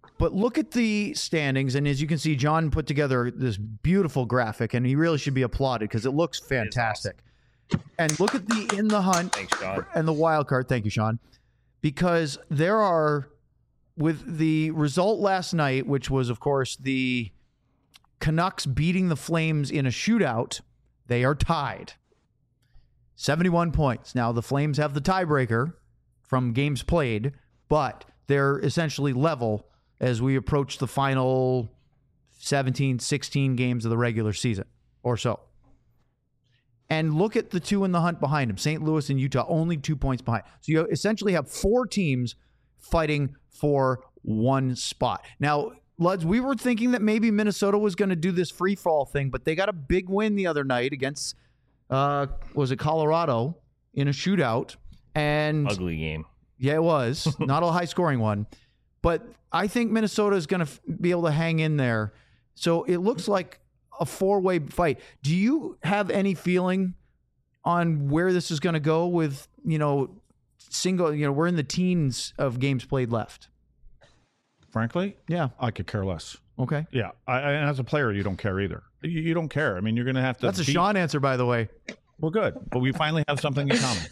Speaker 2: But look at the standings, and as you can see, John put together this beautiful graphic, and he really should be applauded because it looks fantastic. Awesome. And look at the in the hunt and the wild card. Thank you, Sean. Because there are, with the result last night, which was, of course, the Canucks beating the Flames in a shootout, they are tied. 71 points. Now, the Flames have the tiebreaker from games played, but they're essentially level as we approach the final 17, 16 games of the regular season or so. And look at the two in the hunt behind them, St. Louis and Utah, only 2 points behind. So you essentially have 4 teams fighting for one spot. Now, Luds, we were thinking that maybe Minnesota was going to do this free fall thing, but they got a big win the other night against, was it Colorado in a shootout? And
Speaker 5: ugly game.
Speaker 2: Yeah, it was. Not a high-scoring one. But I think Minnesota is going to be able to hang in there. So it looks like a 4-way fight. Do you have any feeling on where this is going to go with, we're in the teens of games played left?
Speaker 1: Frankly?
Speaker 2: Yeah.
Speaker 1: I could care less.
Speaker 2: Okay.
Speaker 1: Yeah. And as a player, you don't care either. You don't care. I mean, you're going to have to.
Speaker 2: That's a Sean answer, by the way.
Speaker 1: Well, good. But we finally have something in common.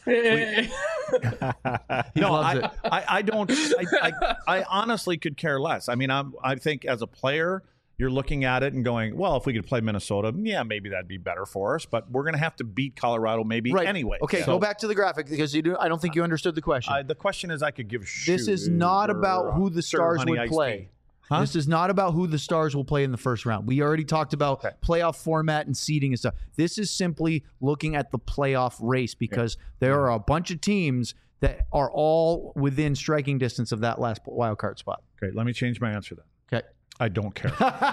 Speaker 1: I don't. I honestly could care less. I mean, I think as a player, you're looking at it and going, well, if we could play Minnesota, yeah, maybe that'd be better for us. But we're going to have to beat Colorado maybe anyway.
Speaker 2: Okay, go back to the graphic because I don't think you understood the question.
Speaker 1: The question is, I could give.
Speaker 2: This is not about who the Stars would play. Huh? This is not about who the Stars will play in the first round. We already talked about playoff format and seeding and stuff. This is simply looking at the playoff race because there are a bunch of teams that are all within striking distance of that last wild card spot.
Speaker 1: Okay, let me change my answer then.
Speaker 2: Okay.
Speaker 1: I don't care.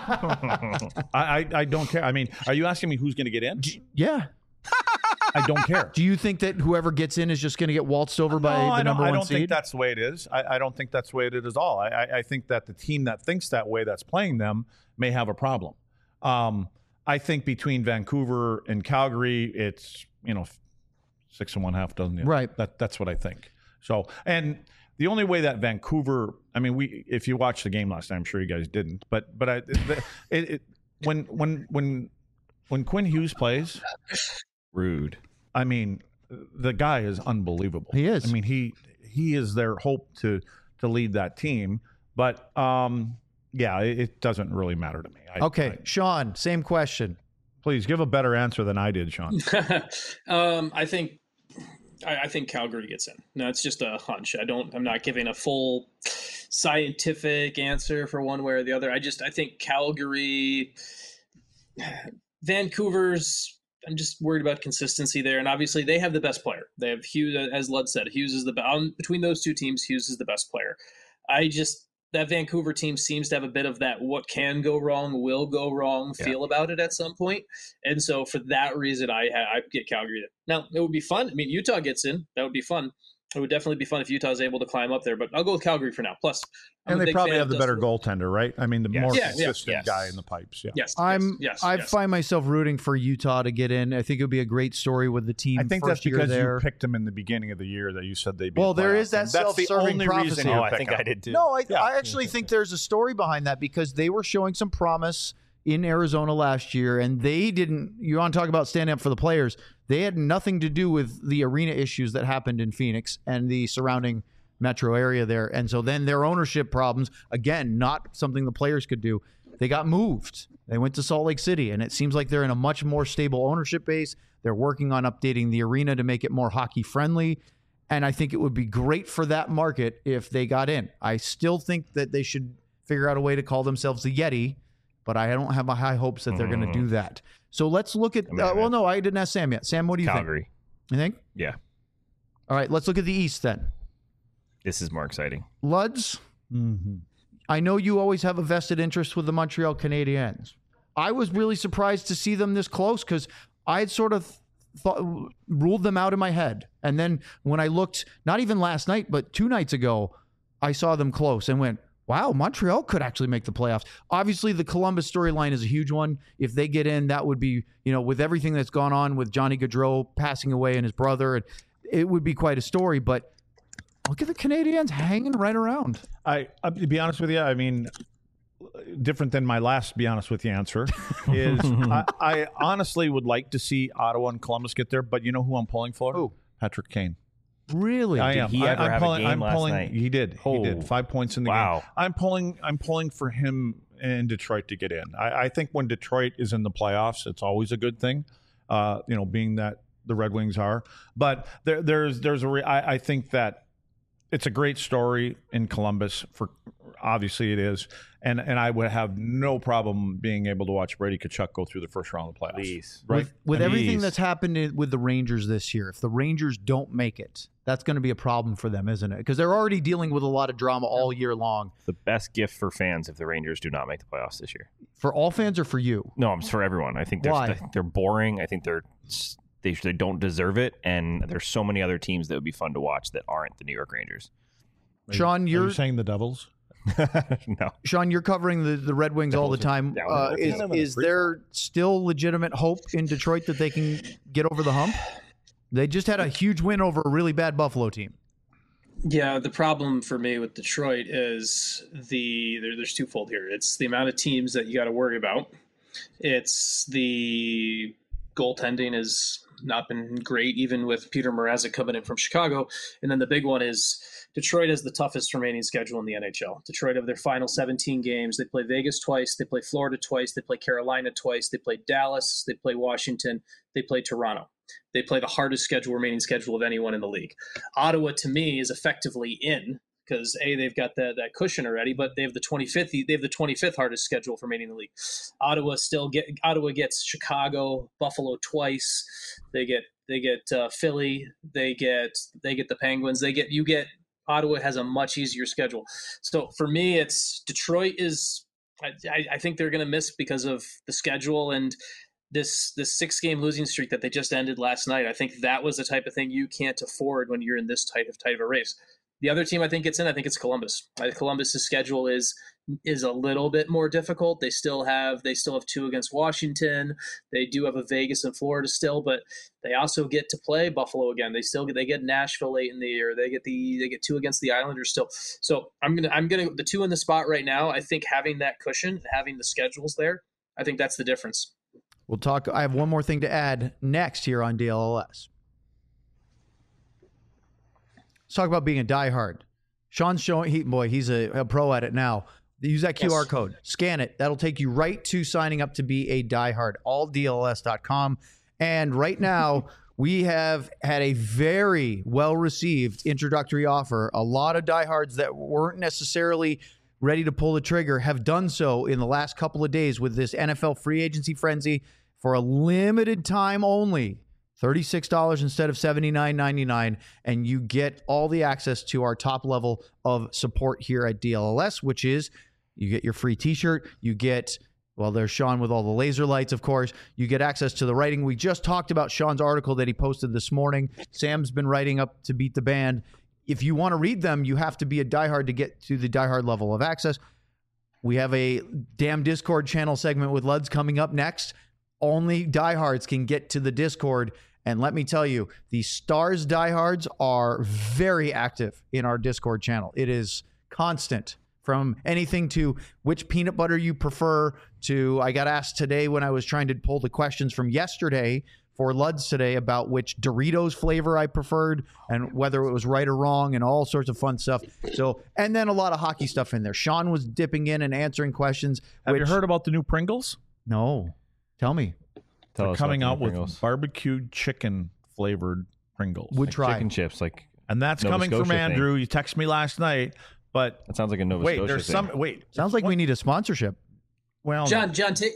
Speaker 1: I don't care. I mean, are you asking me who's going to get in?
Speaker 2: Yeah.
Speaker 1: I don't care.
Speaker 2: Do you think that whoever gets in is just going to get waltzed over by the number one seed?
Speaker 1: I don't think that's the way it is. I don't think that's the way it is at all. I think that the team that thinks that way that's playing them may have a problem. I think between Vancouver and Calgary, it's 6 1/2 dozen.
Speaker 2: Right.
Speaker 1: That's what I think. So, and the only way that Vancouver, I mean, if you watched the game last night, I'm sure you guys didn't, but when Quinn Hughes plays,
Speaker 5: rude.
Speaker 1: I mean, the guy is unbelievable.
Speaker 2: He is.
Speaker 1: I mean, he is their hope to lead that team. But it doesn't really matter to me.
Speaker 2: Sean, same question.
Speaker 1: Please give a better answer than I did, Sean.
Speaker 4: I think Calgary gets in. No, it's just a hunch. I'm not giving a full scientific answer for one way or the other. I think Calgary, Vancouver's. I'm just worried about consistency there, and obviously they have the best player. They have Hughes, as Lud said. Hughes is between those two teams. Hughes is the best player. That Vancouver team seems to have a bit of that what can go wrong, will go wrong feel about it at some point. And so for that reason, I get Calgary. Now, it would be fun. I mean, Utah gets in. That would be fun. It would definitely be fun if Utah is able to climb up there, but I'll go with Calgary for now. Plus,
Speaker 1: and they probably have the better goaltender, right? I mean, the more consistent guy in the pipes. Yeah.
Speaker 4: Yes.
Speaker 2: I find myself rooting for Utah to get in. I think it would be a great story with the team.
Speaker 1: I think that's because you picked them in the beginning of the year that you said they'd be.
Speaker 2: Well, there is that self-serving prophecy.
Speaker 5: I think I did too.
Speaker 2: No, I actually think there's a story behind that because they were showing some promise in Arizona last year, and they didn't. You want to talk about standing up for the players? They had nothing to do with the arena issues that happened in Phoenix and the surrounding metro area there. And so then their ownership problems, again, not something the players could do. They got moved. They went to Salt Lake City, and it seems like they're in a much more stable ownership base. They're working on updating the arena to make it more hockey friendly. And I think it would be great for that market if they got in. I still think that they should figure out a way to call themselves the Yeti, but I don't have high hopes that they're going to do that. So let's look at no, I didn't ask Sam yet. Sam, what do you
Speaker 5: Calgary.
Speaker 2: think? You think?
Speaker 5: Yeah.
Speaker 2: All right, let's look at the East then.
Speaker 5: This is more exciting.
Speaker 2: Luds, I know you always have a vested interest with the Montreal Canadiens. I was really surprised to see them this close because I had sort of ruled them out in my head. And then when I looked, not even last night, but 2 nights ago, I saw them close and went, wow, Montreal could actually make the playoffs. Obviously, the Columbus storyline is a huge one. If they get in, that would be, with everything that's gone on with Johnny Gaudreau passing away and his brother, it would be quite a story. But Look at the Canadiens hanging right around.
Speaker 1: To be honest with you, I mean, different than my last be honest with you answer is I honestly would like to see Ottawa and Columbus get there, but you know who I'm pulling for?
Speaker 2: Who?
Speaker 1: Patrick Kane.
Speaker 2: Really?
Speaker 1: Did
Speaker 5: he ever have a game last night?
Speaker 1: He did. He did. 5 points in the game. I'm pulling for him in Detroit to get in. I think when Detroit is in the playoffs, it's always a good thing. Being that the Red Wings are, but I think that it's a great story in Columbus. For obviously it is, and I would have no problem being able to watch Brady Tkachuk go through the first round of the playoffs.
Speaker 5: Please.
Speaker 1: Right?
Speaker 2: With everything that's happened with the Rangers this year, if the Rangers don't make it, that's going to be a problem for them, isn't it? Because they're already dealing with a lot of drama all year long.
Speaker 5: The best gift for fans if the Rangers do not make the playoffs this year.
Speaker 2: For all fans or for you?
Speaker 5: No, it's for everyone. I think they're boring. I think they don't deserve it, and there's so many other teams that would be fun to watch that aren't the New York Rangers.
Speaker 2: Sean,
Speaker 1: are you saying the Devils?
Speaker 5: No.
Speaker 2: Sean, you're covering the Red Wings all the time. Is there still legitimate hope in Detroit that they can get over the hump? They just had a huge win over a really bad Buffalo team.
Speaker 4: Yeah, the problem for me with Detroit is there's twofold here. It's the amount of teams that you got to worry about. It's the goaltending has not been great, even with Peter Mrazek coming in from Chicago. And then the big one is Detroit has the toughest remaining schedule in the NHL. Detroit, of their final 17 games, they play Vegas twice, they play Florida twice, they play Carolina twice, they play Dallas, they play Washington, they play Toronto. They play the hardest remaining schedule of anyone in the league. Ottawa, to me, is effectively in because they've got that cushion already, but they have the 25th hardest schedule for remaining in the league. Ottawa gets Chicago, Buffalo twice. They get Philly. They get the Penguins. Ottawa has a much easier schedule. So for me, it's Detroit is. I think they're going to miss because of the schedule and this 6-game losing streak that they just ended last night. I think that was the type of thing you can't afford when you're in this tight of a race. The other team I think it's Columbus. Columbus's schedule is a little bit more difficult. They still have 2 against Washington. They do have a Vegas and Florida still, but they also get to play Buffalo again. They get Nashville late in the year. They get 2 against the Islanders still. So I'm gonna the 2 in the spot right now. I think having that cushion, having the schedules there, I think that's the difference.
Speaker 2: We'll talk. I have one more thing to add next here on DLLS. Let's talk about being a diehard. Sean's showing, he's a pro at it now. Use that QR code. Scan it. That'll take you right to signing up to be a diehard. AllDLS.com. And right now, we have had a very well-received introductory offer. A lot of diehards that weren't necessarily ready to pull the trigger have done so in the last couple of days with this NFL free agency frenzy for a limited time only. $36 instead of $79.99, and you get all the access to our top level of support here at DLLS, which is you get your free t-shirt, you get, there's Sean with all the laser lights, of course. You get access to the writing. We just talked about Sean's article that he posted this morning. Sam's been writing up to Beat the Band. If you want to read them, you have to be a diehard to get to the diehard level of access. We have a damn Discord channel segment with Luds coming up next. Only diehards can get to the Discord. And let me tell you, the Stars diehards are very active in our Discord channel. It is constant, from anything to which peanut butter you prefer to, I got asked today when I was trying to pull the questions from yesterday for Luds today about which Doritos flavor I preferred and whether it was right or wrong and all sorts of fun stuff. So, and then a lot of hockey stuff in there. Sean was dipping in and answering questions.
Speaker 1: Have you heard about the new Pringles?
Speaker 2: No. Tell me.
Speaker 1: They're coming out with barbecued chicken flavored Pringles.
Speaker 2: Would try
Speaker 5: chicken chips,
Speaker 1: and that's
Speaker 5: Nova
Speaker 1: coming
Speaker 5: Scotia
Speaker 1: from Andrew. He texted me last night, but
Speaker 5: that sounds like a Nova Scotia thing.
Speaker 2: Sounds like we need a sponsorship.
Speaker 4: Well, John,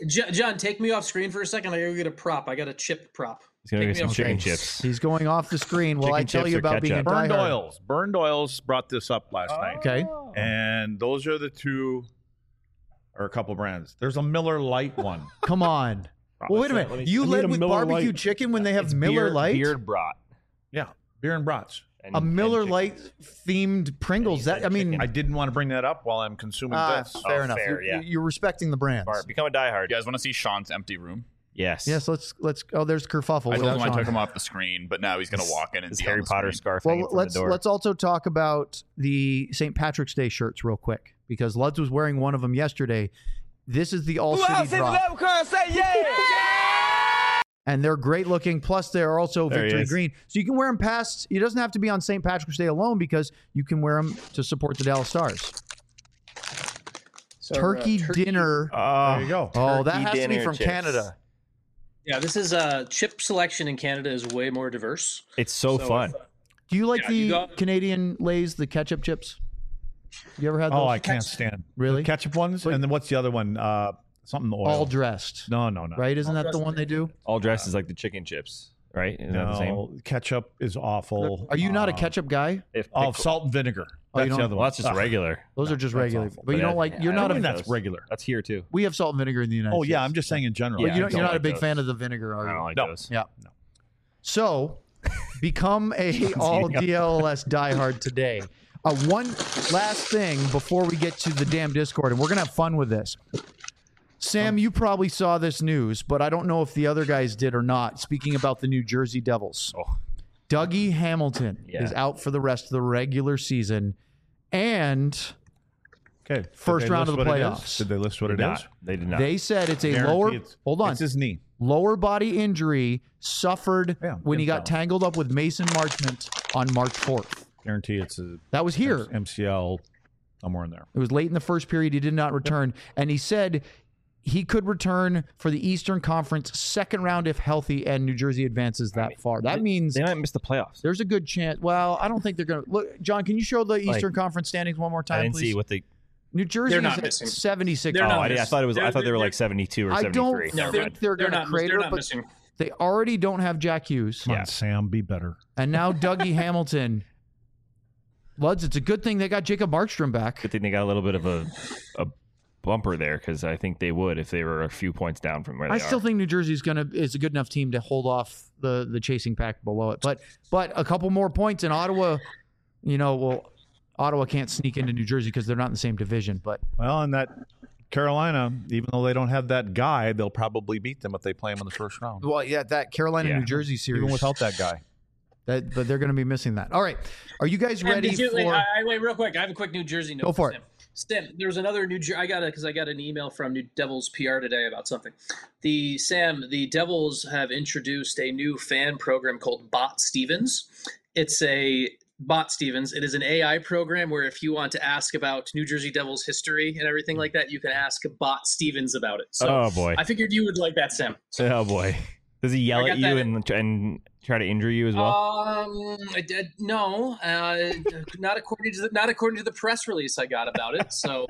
Speaker 4: take me off screen for a second. I gotta get a prop. I got a chip prop.
Speaker 5: He's gonna get some chicken chips.
Speaker 2: He's going off the screen while I tell you about being a
Speaker 1: Burned
Speaker 2: diehard.
Speaker 1: Oils. Burned Oils brought this up last night.
Speaker 2: Okay,
Speaker 1: and those are the two, or a couple brands. There's a Miller Lite one.
Speaker 2: Come on. Well, wait a minute. You led with barbecue chicken when they have Miller Lite?
Speaker 5: Beer brat.
Speaker 1: Yeah, beer and brats.
Speaker 2: A Miller Lite themed Pringles. I
Speaker 1: didn't want to bring that up while I'm consuming this.
Speaker 2: Fair enough.
Speaker 5: Fair,
Speaker 2: You're respecting the brands.
Speaker 5: Become a diehard.
Speaker 3: You guys want to see Sean's empty room?
Speaker 5: Yes.
Speaker 2: Yes. Let's. Oh, there's Kerfuffle.
Speaker 3: I told him I
Speaker 2: Sean.
Speaker 3: took him off the screen, but now he's going to walk in and
Speaker 5: His
Speaker 3: see
Speaker 5: Harry Potter scarf.
Speaker 2: Well,
Speaker 5: hanging from the door.
Speaker 2: let's also talk about the St. Patrick's Day shirts real quick because Luds was wearing one of them yesterday. This is the All City drop. And they're great looking. Plus, they're also victory green. So you can wear them past. It doesn't have to be on St. Patrick's Day alone because you can wear them to support the Dallas Stars. So, turkey dinner.
Speaker 1: There you go.
Speaker 2: Oh, that has to be from
Speaker 5: chips.
Speaker 2: Canada.
Speaker 4: Yeah, this is chip selection in Canada is way more diverse.
Speaker 5: It's so fun.
Speaker 2: Do you like the Canadian Lay's, the ketchup chips? You ever had those?
Speaker 1: Oh, I can't stand.
Speaker 2: Really?
Speaker 1: The ketchup ones? And then what's the other one? Something oil.
Speaker 2: All dressed.
Speaker 1: No.
Speaker 2: Right? Isn't that the one they do?
Speaker 5: All dressed is like the chicken chips, right? Isn't that the same?
Speaker 1: Ketchup is awful.
Speaker 2: Are you not a ketchup guy?
Speaker 1: Salt and vinegar. That's the other
Speaker 5: Well,
Speaker 1: one.
Speaker 5: that's just regular.
Speaker 2: Those are just regular.
Speaker 1: awful.
Speaker 2: But you don't like. You're not a.
Speaker 1: That's regular.
Speaker 5: That's here too.
Speaker 2: We have salt and vinegar in the United States.
Speaker 1: I'm just saying in general.
Speaker 2: But
Speaker 5: Yeah,
Speaker 2: you're not a
Speaker 5: like
Speaker 2: big
Speaker 5: those.
Speaker 2: fan of the vinegar, are
Speaker 5: I
Speaker 2: you?
Speaker 5: don't like
Speaker 1: No.
Speaker 5: those.
Speaker 2: Yeah. So, become a all DLS diehard today. One last thing before we get to the damn Discord, and we're gonna have fun with this. Sam, you probably saw this news, but I don't know if the other guys did or not. Speaking about the New Jersey Devils, Dougie Hamilton is out for the rest of the regular season, and first round of the playoffs.
Speaker 1: Did they list what it is?
Speaker 5: They did not.
Speaker 2: They said it's a
Speaker 1: Guarantee
Speaker 2: lower.
Speaker 1: it's-
Speaker 2: Hold on.
Speaker 1: It's his knee.
Speaker 2: Lower body injury suffered when he got tangled up with Mason Marchment on March 4th.
Speaker 1: Guarantee it's a
Speaker 2: That was here.
Speaker 1: MCL somewhere in there.
Speaker 2: It was late in the first period. He did not return. And he said he could return for the Eastern Conference second round if healthy and New Jersey advances that far. That means
Speaker 5: they might miss the playoffs.
Speaker 2: there's a good chance. Well, I don't think they're going to. Look, John, can you show the Eastern Conference standings one more time,
Speaker 5: I didn't
Speaker 2: please?
Speaker 5: see what they.
Speaker 2: New Jersey
Speaker 4: They're not
Speaker 2: is at
Speaker 4: missing.
Speaker 2: 76.
Speaker 4: They're not
Speaker 5: I
Speaker 4: missing.
Speaker 5: thought it was. I thought they were like
Speaker 4: They're-
Speaker 5: 72 or
Speaker 2: I
Speaker 5: 73.
Speaker 2: don't
Speaker 5: Never
Speaker 2: think
Speaker 5: mind.
Speaker 2: they're going to
Speaker 4: not
Speaker 2: crater,
Speaker 4: they're not
Speaker 2: but
Speaker 4: missing.
Speaker 2: they already don't have Jack Hughes.
Speaker 1: Come on, Sam, be better.
Speaker 2: And now Dougie Hamilton. Luds, it's a good thing they got Jacob Markstrom back.
Speaker 5: Good thing they got a little bit of a bumper there because I think they would if they were a few points down from where they
Speaker 2: I
Speaker 5: are.
Speaker 2: still think New Jersey is a good enough team to hold off the chasing pack below it. But a couple more points in Ottawa, Ottawa can't sneak into New Jersey because they're not in the same division. But
Speaker 1: Well, and that Carolina, even though they don't have that guy, they'll probably beat them if they play them in the first round.
Speaker 2: that Carolina New Jersey series,
Speaker 1: Even without that guy.
Speaker 2: but they're going to be missing that. All right, are you guys ready for?
Speaker 4: Wait, real quick. I have a quick New Jersey note.
Speaker 2: Go for it.
Speaker 4: Sam, there's another New Jersey. I got an email from New Devils PR today about something. The Devils have introduced a new fan program called Bot Stevens. It's a Bot Stevens. It is an AI program where if you want to ask about New Jersey Devils history and everything like that, you can ask Bot Stevens about it. So
Speaker 5: Oh boy!
Speaker 4: I figured you would like that, Sam.
Speaker 5: Oh boy! Does he yell at you and try to injure you as well?
Speaker 4: No, not according to the press release I got about it. So,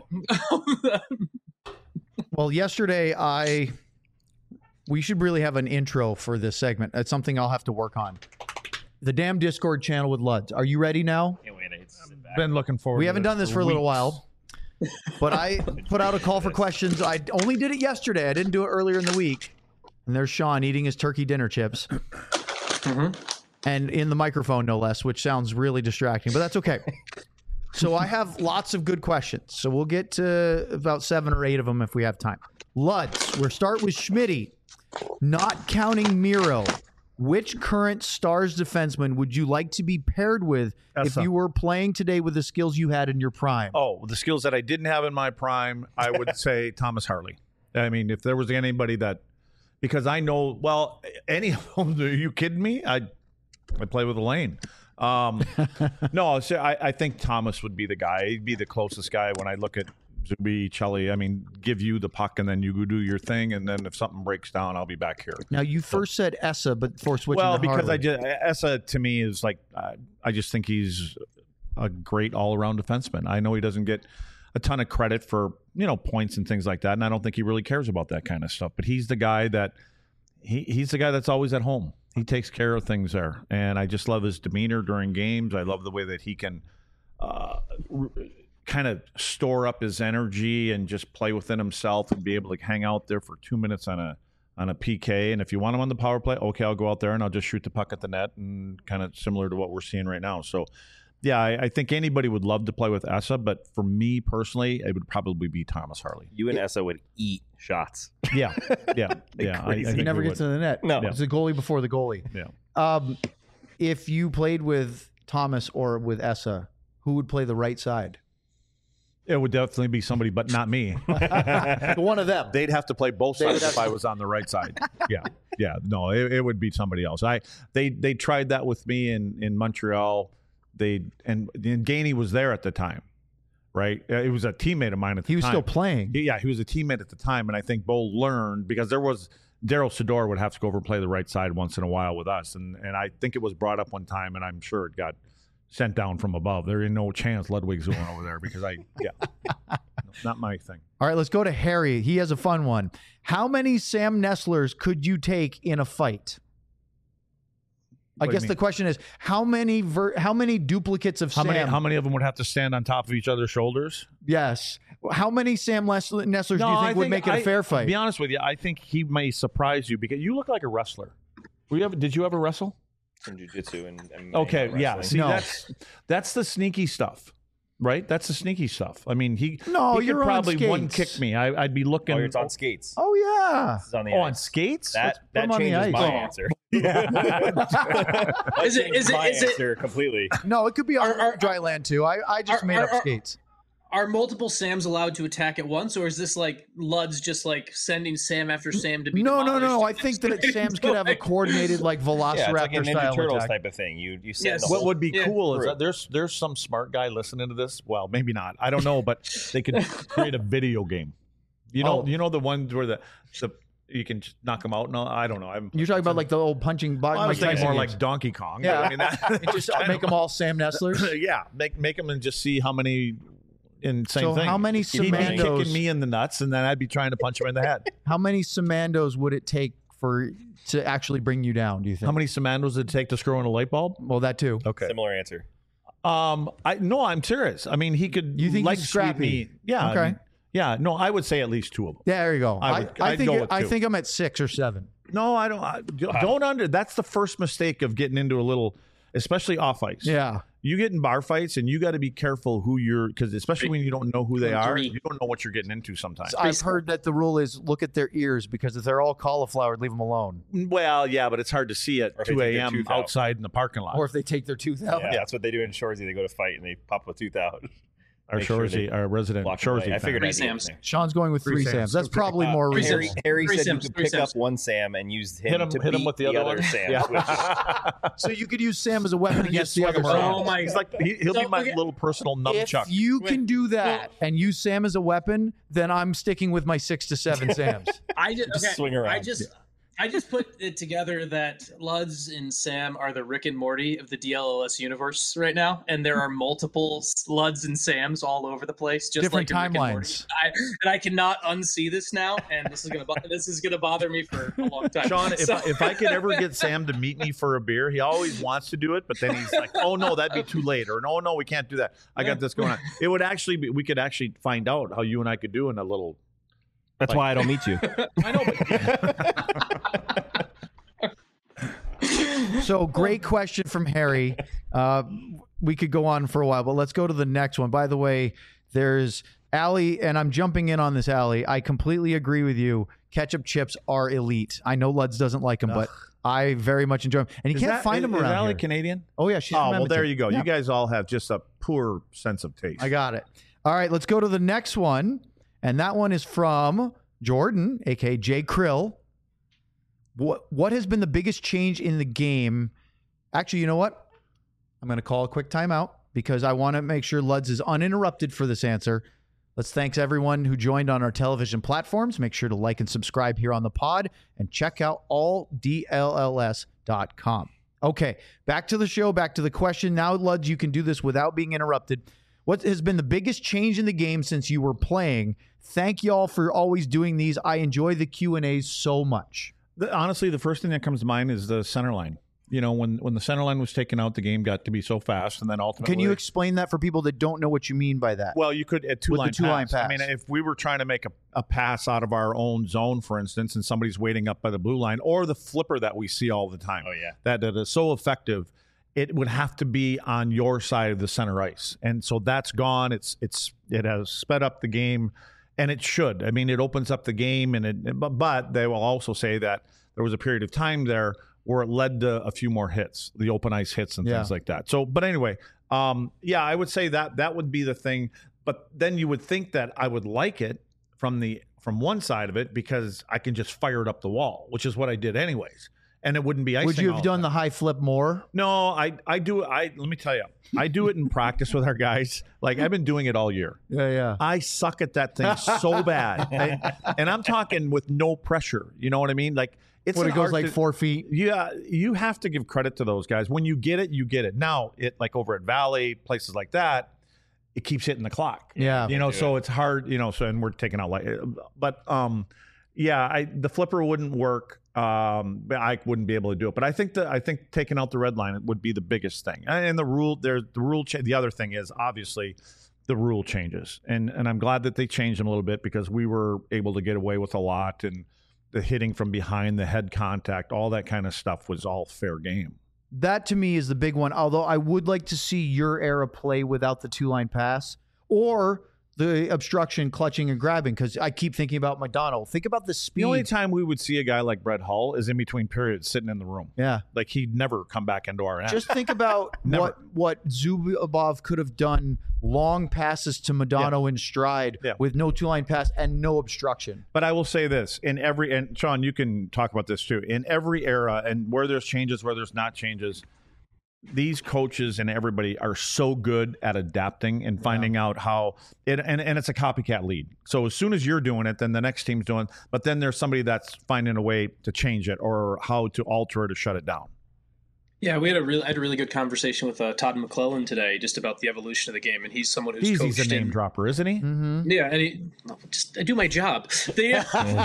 Speaker 2: Well, yesterday we should really have an intro for this segment. That's something I'll have to work on. The damn Discord channel with Luds. Are you ready now?
Speaker 1: Been looking forward.
Speaker 2: We
Speaker 1: to
Speaker 2: haven't done this for a little
Speaker 1: weeks.
Speaker 2: while, but I put out a call for questions. I only did it yesterday. I didn't do it earlier in the week. And there's Sean eating his turkey dinner chips. And in the microphone, no less, which sounds really distracting, but that's okay. So I have lots of good questions. So we'll get to about 7 or 8 of them if we have time. Luds, we'll start with Schmitty. Not counting Miro, which current Stars defenseman would you like to be paired with if you were playing today with the skills you had in your prime?
Speaker 1: Oh, the skills that I didn't have in my prime, I would say Thomas Harley. I mean, if there was anybody that, because I know, well, any of them, are you kidding me? I play with Elaine. No, I think Thomas would be the guy. He'd be the closest guy when I look at Zuby, Chelly. I mean, give you the puck and then you go do your thing, and then if something breaks down, I'll be back here.
Speaker 2: Now, you first said Essa, but before switching
Speaker 1: Well,
Speaker 2: to
Speaker 1: because
Speaker 2: Harley.
Speaker 1: Essa to me is like, I just think he's a great all-around defenseman. I know he doesn't get a ton of credit for, points and things like that, and I don't think he really cares about that kind of stuff. But he's the guy that he's the guy that's always at home. He takes care of things there, and I just love his demeanor during games. I love the way that he can kind of store up his energy and just play within himself and be able to hang out there for 2 minutes on a PK. And if you want him on the power play, okay, I'll go out there and I'll just shoot the puck at the net, and kind of similar to what we're seeing right now. So, yeah, I think anybody would love to play with Essa, but for me personally, it would probably be Thomas Harley.
Speaker 5: You and Essa would eat shots.
Speaker 1: Yeah.
Speaker 2: He never gets to the net.
Speaker 5: No.
Speaker 2: It's the goalie before the goalie.
Speaker 1: Yeah.
Speaker 2: If you played with Thomas or with Essa, who would play the right side?
Speaker 1: It would definitely be somebody, but not me.
Speaker 2: One of them.
Speaker 1: They'd have to play both sides if I was on the right side. Yeah. No, it would be somebody else. They tried that with me in Montreal. And Gainey was there at the time, right? It was a teammate of mine at the time.
Speaker 2: He was still playing.
Speaker 1: Yeah, he was a teammate at the time, and I think Bo learned because there was Daryl Sador would have to go over and play the right side once in a while with us, and I think it was brought up one time, and I'm sure it got sent down from above. There ain't no chance Ludwig's going over there because not my thing.
Speaker 2: All right, let's go to Harry. He has a fun one. How many Sam Nestlers could you take in a fight? I guess the question is how many duplicates of Sam?
Speaker 1: How many of them would have to stand on top of each other's shoulders?
Speaker 2: Yes. How many Sam Nestlers do you think would make it a fair fight?
Speaker 1: To be honest with you, I think he may surprise you because you look like a wrestler. Did you ever wrestle?
Speaker 5: From jiu-jitsu and
Speaker 1: okay, yeah.
Speaker 5: wrestling.
Speaker 1: See, that's the sneaky stuff, right? That's the sneaky stuff. I mean, he could probably one kick me. I'd be looking.
Speaker 5: Oh, it's on skates.
Speaker 2: Oh yeah.
Speaker 5: This is on the
Speaker 1: on skates.
Speaker 5: That changes my answer.
Speaker 4: Is it
Speaker 5: answer completely?
Speaker 2: No, it could be on dry land too. I just made up skates.
Speaker 4: Are multiple Sams allowed to attack at once, or is this like Lud's just like sending Sam after Sam to be
Speaker 2: No. I think that Sam's could have a coordinated like Velociraptor
Speaker 5: like a Ninja
Speaker 2: style
Speaker 5: Turtles
Speaker 2: attack.
Speaker 5: type of thing. You send
Speaker 1: What would be cool is that there's some smart guy listening to this. Well, maybe not. I don't know, but they could create a video game. You know the ones where the you can just knock them out. No, I don't know.
Speaker 2: You're talking about like the old punching bug.
Speaker 1: I was thinking more like Donkey Kong.
Speaker 2: Yeah,
Speaker 1: I mean,
Speaker 2: just make them all Sam Nestlers.
Speaker 1: Yeah, make them and just see how many. Same thing.
Speaker 2: How many
Speaker 1: He'd be kicking me in the nuts, and then I'd be trying to punch him in the head.
Speaker 2: How many Samandos would it take to actually bring you down? Do you think?
Speaker 1: How many Samandos did it take to screw in a light bulb?
Speaker 2: Well, that too.
Speaker 1: Okay.
Speaker 5: Similar answer.
Speaker 1: I'm serious. I mean, he could.
Speaker 2: You think
Speaker 1: like
Speaker 2: he's scrappy?
Speaker 1: Me. Yeah.
Speaker 2: Okay.
Speaker 1: No, I would say at least 2 of them.
Speaker 2: Yeah, there you go. I think I'm at 6 or 7.
Speaker 1: No, I don't. Don't under. That's the first mistake of getting into a little, especially off ice.
Speaker 2: Yeah.
Speaker 1: You get in bar fights, and you got to be careful who because especially when you don't know who they are, you don't know what you're getting into sometimes.
Speaker 2: I've heard that the rule is look at their ears because if they're all cauliflower, leave them alone.
Speaker 1: Well, yeah, but it's hard to see at 2 a.m. outside in the parking lot.
Speaker 2: Or if they take their tooth out.
Speaker 5: Yeah, that's what they do in Shoresy. They go to fight and they pop a tooth out.
Speaker 1: Our resident Shoresy.
Speaker 5: I figured
Speaker 4: 3 Sams.
Speaker 2: Sean's going with 3 Sams. That's probably more reasonable.
Speaker 5: Harry said you could pick up one Sam and use him to beat
Speaker 1: with the other
Speaker 5: Sam.
Speaker 2: So you could use Sam as a weapon against the other Sam.
Speaker 4: Oh my!
Speaker 1: He's like he'll be my little personal nunchuck.
Speaker 2: If you can do that and use Sam as a weapon, then I'm sticking with my 6 to 7 Sams.
Speaker 5: Just swing around.
Speaker 4: I just put it together that Luds and Sam are the Rick and Morty of the DLLS universe right now, and there are multiple Luds and Sams all over the place, just
Speaker 2: different
Speaker 4: like
Speaker 2: timelines.
Speaker 4: And I cannot unsee this now, and this is gonna bother me for a long time.
Speaker 1: Sean, if I could ever get Sam to meet me for a beer, he always wants to do it, but then he's like, "Oh no, that'd be too late," or "No, we can't do that. I got this going on." It would actually be. We could actually find out how you and I could do in a little.
Speaker 5: That's why I don't meet you.
Speaker 1: I know, but
Speaker 2: So great question from Harry. We could go on for a while, but let's go to the next one. By the way, there's Allie, and I'm jumping in on this, Allie. I completely agree with you. Ketchup chips are elite. I know Luds doesn't like them, but I very much enjoy them. And you can't find them around here.
Speaker 1: Is Allie Canadian?
Speaker 2: Oh, yeah. She's from
Speaker 1: well, there you go.
Speaker 2: Yeah.
Speaker 1: You guys all have just a poor sense of taste.
Speaker 2: I got it. All right, let's go to the next one. And that one is from Jordan, a.k.a. Jay Krill. What has been the biggest change in the game? Actually, you know what? I'm going to call a quick timeout because I want to make sure Luds is uninterrupted for this answer. Let's thank everyone who joined on our television platforms. Make sure to like and subscribe here on the pod and check out alldlls.com. Okay, back to the show, back to the question. Now, Luds, you can do this without being interrupted. What has been the biggest change in the game since you were playing? Thank y'all for always doing these. I enjoy the Q&As so much.
Speaker 1: Honestly, the first thing that comes to mind is the center line. You know, when the center line was taken out, the game got to be so fast, and then ultimately...
Speaker 2: Can you explain that for people that don't know what you mean by that?
Speaker 1: Well, you could at two-line pass. I mean, if we were trying to make a pass out of our own zone, for instance, and somebody's waiting up by the blue line, or the flipper that we see all the time.
Speaker 5: Oh, yeah.
Speaker 1: That is so effective. It would have to be on your side of the center ice, and so that's gone. It has sped up the game, And it should. I mean, it opens up the game, but they will also say that there was a period of time there where it led to a few more hits, the open ice hits and things like that. So, but anyway, I would say that would be the thing. But then you would think that I would like it from one side of it because I can just fire it up the wall, which is what I did anyways. And it wouldn't be icing.
Speaker 2: Would you have done the high flip more?
Speaker 1: No, I do. Let me tell you, I do it in practice with our guys. Like I've been doing it all year.
Speaker 2: Yeah.
Speaker 1: I suck at that thing so bad, and I'm talking with no pressure. You know what I mean? Like it
Speaker 2: goes like 4 feet.
Speaker 1: Yeah, you have to give credit to those guys. When you get it, you get it. Now it like over at Valley, places like that, it keeps hitting the clock.
Speaker 2: Yeah,
Speaker 1: so it's hard. So and we're taking out but the flipper wouldn't work. I wouldn't be able to do it, but I think taking out the red line would be the biggest thing. And the rule, the other thing is obviously the rule changes, and I'm glad that they changed them a little bit because we were able to get away with a lot, and the hitting from behind, the head contact, all that kind of stuff was all fair game.
Speaker 2: That to me is the big one. Although I would like to see your era play without the 2-line pass or the obstruction, clutching, and grabbing, because I keep thinking about McDonald. Think about the speed.
Speaker 1: The only time we would see a guy like Brett Hull is in between periods sitting in the room.
Speaker 2: Yeah.
Speaker 1: Like he'd never come back into our end.
Speaker 2: Just think about what Zubov could have done, long passes to Modano in stride with no 2-line pass and no obstruction.
Speaker 1: But I will say this, and Sean, you can talk about this too, in every era and where there's changes, where there's not changes, these coaches and everybody are so good at adapting and finding out how it, and it's a copycat lead. So as soon as you're doing it, then the next team's doing, but then there's somebody that's finding a way to change it or how to alter it or shut it down.
Speaker 4: Yeah, I had a really good conversation with Todd McClellan today just about the evolution of the game, and he's someone who's coached.
Speaker 1: He's a name dropper, isn't he?
Speaker 2: Mm-hmm.
Speaker 4: Yeah, and I do my job. Name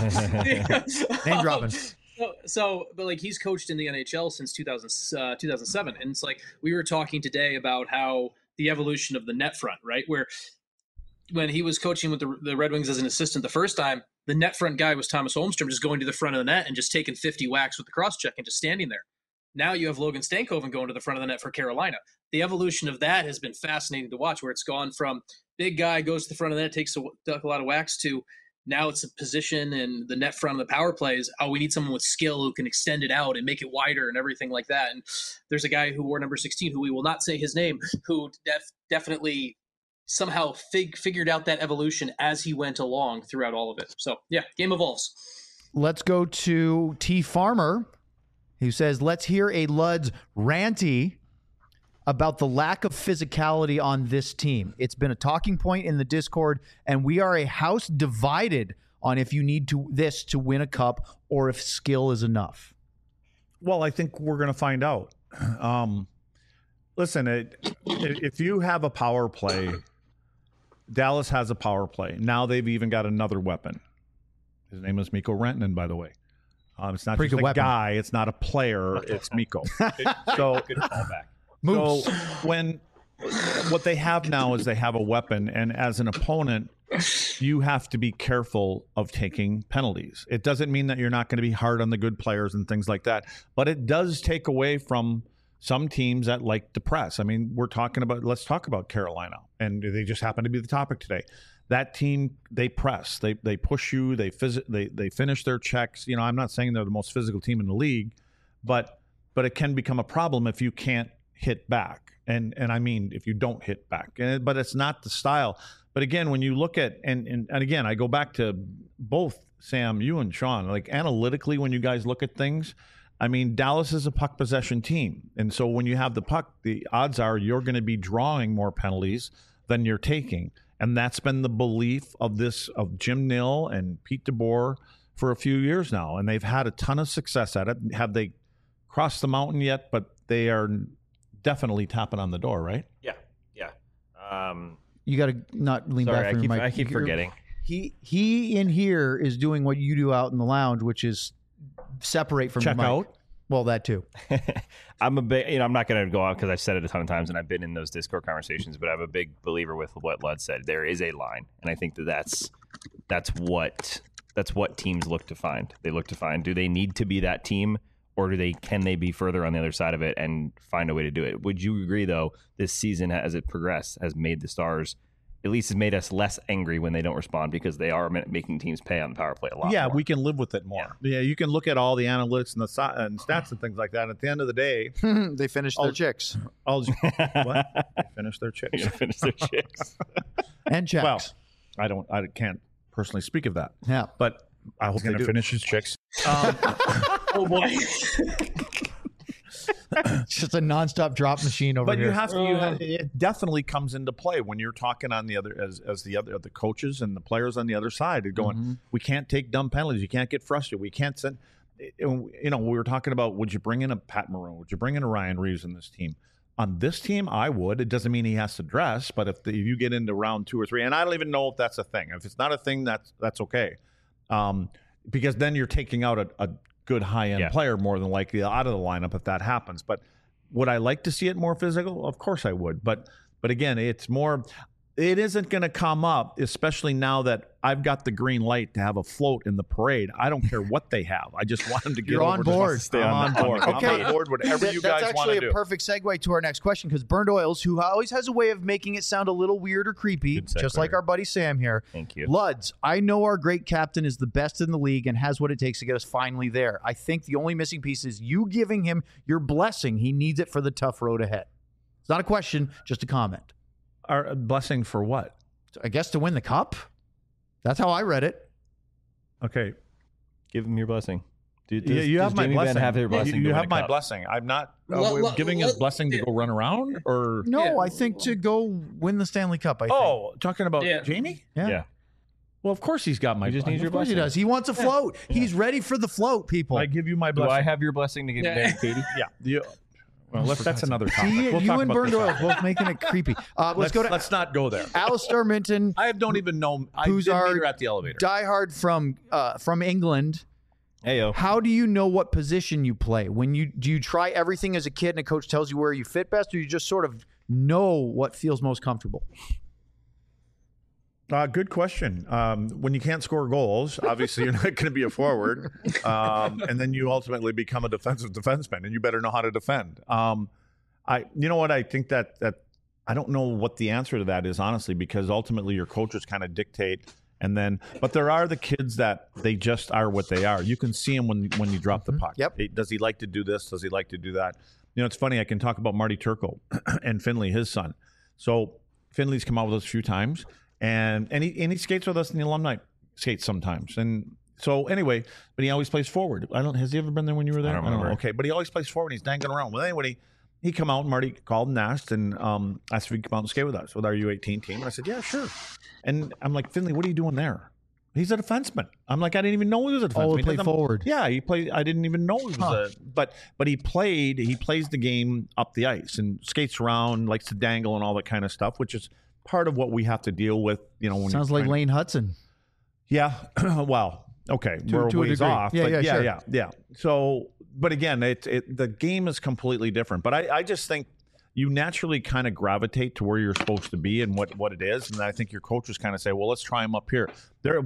Speaker 2: dropping.
Speaker 4: But like he's coached in the NHL since 2007, and it's like we were talking today about how the evolution of the net front, right? Where when he was coaching with the Red Wings as an assistant the first time, the net front guy was Thomas Holmstrom, just going to the front of the net and just taking 50 whacks with the cross check and just standing there. Now you have Logan Stankoven going to the front of the net for Carolina. The evolution of that has been fascinating to watch, where it's gone from big guy goes to the front of the net, takes a lot of whacks, to now it's a position and the net front of the power plays. Oh, we need someone with skill who can extend it out and make it wider and everything like that. And there's a guy who wore number 16, who we will not say his name, who definitely somehow figured out that evolution as he went along throughout all of it. So, yeah, game evolves.
Speaker 2: Let's go to T. Farmer, who says, let's hear a Luds ranty about the lack of physicality on this team. It's been a talking point in the Discord, and we are a house divided on if you need this to win a cup or if skill is enough.
Speaker 1: Well, I think we're going to find out. Listen, if you have a power play, Dallas has a power play. Now they've even got another weapon. His name is Mikko Rantanen, by the way. It's not just a guy. It's not a player. It's Mikko. So good callback. So what they have now is they have a weapon, and as an opponent, you have to be careful of taking penalties. It doesn't mean that you're not going to be hard on the good players and things like that, but it does take away from some teams that like to press. I mean, let's talk about Carolina, and they just happen to be the topic today. That team, they press, they push you, they finish their checks. You know, I'm not saying they're the most physical team in the league, but it can become a problem if you can't hit back. And I mean, if you don't hit back, but it's not the style. But again, when you look at, and again, I go back to both Sam, you and Sean, like analytically, when you guys look at things, I mean, Dallas is a puck possession team. And so when you have the puck, the odds are you're going to be drawing more penalties than you're taking. And that's been the belief of Jim Nill and Pete DeBoer for a few years now. And they've had a ton of success at it. Have they crossed the mountain yet? But they are definitely tapping on the door, right?
Speaker 5: Yeah.
Speaker 2: You got to not lean back from your mic.
Speaker 5: I keep forgetting.
Speaker 2: He in here is doing what you do out in the lounge, which is separate from
Speaker 1: check
Speaker 2: the mic.
Speaker 1: Out.
Speaker 2: Well, that too.
Speaker 5: I'm a big, I'm not going to go out because I've said it a ton of times and I've been in those Discord conversations, but I'm a big believer with what Lud said. There is a line, and I think that's what teams look to find. They look to find, do they need to be that team, or can they be further on the other side of it and find a way to do it? Would you agree, though, this season as it progressed has made the Stars at least has made us less angry when they don't respond because they are making teams pay on the power play a lot more.
Speaker 1: We can live with it more. Yeah, you can look at all the analytics and the and stats and things like that. And at the end of the day,
Speaker 2: they finished their chicks.
Speaker 1: What? They finished their chicks.
Speaker 5: Finish their chicks.
Speaker 2: And checks.
Speaker 1: Well, I can't personally speak of that.
Speaker 2: Yeah.
Speaker 1: But I hope they do.
Speaker 8: Finish his chicks.
Speaker 4: Oh boy.
Speaker 2: It's just a nonstop drop machine over here.
Speaker 1: But it definitely comes into play when you're talking on the other as the coaches and the players on the other side are going, we can't take dumb penalties. You can't get frustrated. We can't send. We were talking about, would you bring in a Pat Maroon? Would you bring in a Ryan Reeves in this team? On this team, I would. It doesn't mean he has to dress, but if you get into round 2 or 3, and I don't even know if that's a thing. If it's not a thing, that's okay, because then you're taking out a good high-end player more than likely out of the lineup if that happens. But would I like to see it more physical? Of course I would. But again, it's more. It isn't going to come up, especially now that I've got the green light to have a float in the parade. I don't care what they have. I just want them to get
Speaker 2: You're on board.
Speaker 1: Stay on board.
Speaker 2: Okay.
Speaker 1: I'm on board. Whatever you guys want to do.
Speaker 2: That's actually a perfect segue to our next question, because Burned Oils, who always has a way of making it sound a little weird or creepy, just like our buddy Sam here.
Speaker 5: Thank you.
Speaker 2: Luds, I know our great captain is the best in the league and has what it takes to get us finally there. I think the only missing piece is you giving him your blessing. He needs it for the tough road ahead. It's not a question, just a comment.
Speaker 1: Our blessing for what?
Speaker 2: I guess to win the cup. That's how I read it.
Speaker 1: Okay.
Speaker 5: Give him your blessing.
Speaker 1: You have my blessing.
Speaker 5: Have their blessing
Speaker 1: you have my blessing. I'm not giving his blessing to go run around, or
Speaker 2: no. I think to go win the Stanley Cup. I think.
Speaker 1: Talking about Jamie?
Speaker 2: Yeah.
Speaker 1: Well, of course he's got my.
Speaker 5: Just needs your blessing.
Speaker 2: He does. He wants a float. Yeah. He's ready for the float. People.
Speaker 1: I give you my blessing.
Speaker 5: Do I have your blessing to give Katie?
Speaker 1: Yeah. Well, that's another topic.
Speaker 2: You and Burned Oil both making it creepy.
Speaker 1: Let's not go there.
Speaker 2: Alistair Minton.
Speaker 1: I don't even know.
Speaker 2: Who's our
Speaker 1: at the elevator?
Speaker 2: Diehard from England.
Speaker 5: Heyo.
Speaker 2: How do you know what position you play? Do you try everything as a kid and a coach tells you where you fit best, or you just sort of know what feels most comfortable?
Speaker 1: Good question. When you can't score goals, obviously you're not going to be a forward, and then you ultimately become a defensive defenseman, and you better know how to defend. You know what? I think that I don't know what the answer to that is, honestly, because ultimately your coaches kind of dictate, but there are the kids that they just are what they are. You can see them when you drop the puck.
Speaker 2: Yep.
Speaker 1: Does he like to do this? Does he like to do that? It's funny. I can talk about Marty Turco and Finley, his son. So Finley's come out with us a few times. And he skates with us in the alumni skates sometimes. And so anyway, but he always plays forward. Has he ever been there when you were there?
Speaker 5: I don't remember.
Speaker 1: Okay, but he always plays forward. He's dangling around. Well, anyway, he come out and Marty called and asked asked if he'd come out and skate with us, with our U18 team. And I said, yeah, sure. And I'm like, Finley, what are you doing there? He's a defenseman. I'm like, I didn't even know he was a defenseman.
Speaker 2: He played forward.
Speaker 1: Yeah, he played. I didn't even know he was but he played. He plays the game up the ice and skates around, likes to dangle and all that kind of stuff, which is part of what we have to deal with, when
Speaker 2: sounds like Lane Hudson.
Speaker 1: Yeah. Well, okay. We're a ways off. Yeah. So, but again, the game is completely different. But I just think you naturally kind of gravitate to where you're supposed to be and what it is. And I think your coaches kind of say, well, let's try him up here.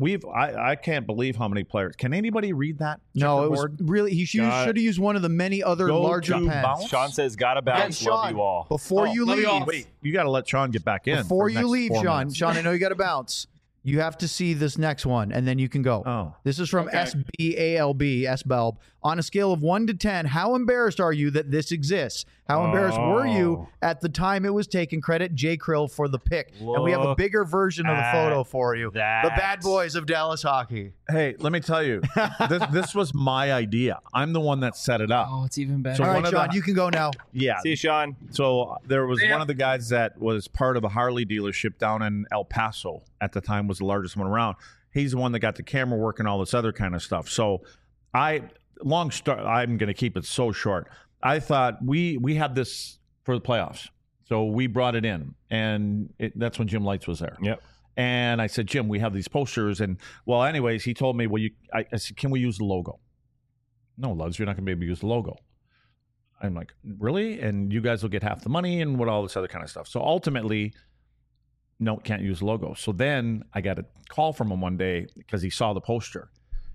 Speaker 1: I can't believe how many players. Can anybody read that?
Speaker 2: No, it was really, he should have used one of the many other larger pens.
Speaker 5: Sean says, gotta bounce, love you all.
Speaker 2: Before you leave.
Speaker 1: Wait, you got to let Sean get back in.
Speaker 2: Before you leave, Sean, I know you got to bounce. You have to see this next one, and then you can go.
Speaker 1: Oh.
Speaker 2: This is from SBALB, SBALB. On a scale of 1 to 10, how embarrassed are you that this exists? How embarrassed were you at the time it was taken? Credit J. Krill for the pick. And we have a bigger version of the photo for you. The bad boys of Dallas hockey.
Speaker 1: Hey, let me tell you, this was my idea. I'm the one that set it up.
Speaker 4: Oh, it's even better.
Speaker 2: So all right, Sean, you can go now.
Speaker 1: Yeah.
Speaker 5: See you, Sean.
Speaker 1: So there was one of the guys that was part of a Harley dealership down in El Paso at the time, was the largest one around. He's the one that got the camera work and all this other kind of stuff. So I'm going to keep it so short. I thought we had this for the playoffs. So we brought it in, and that's when Jim Lights was there.
Speaker 5: Yep.
Speaker 1: And I said, Jim, we have these posters. And, well, anyways, he told me, I said, can we use the logo? No, Luds, you're not going to be able to use the logo. I'm like, really? And you guys will get half the money and all this other kind of stuff. So ultimately, no, can't use the logo. So then I got a call from him one day because he saw the poster.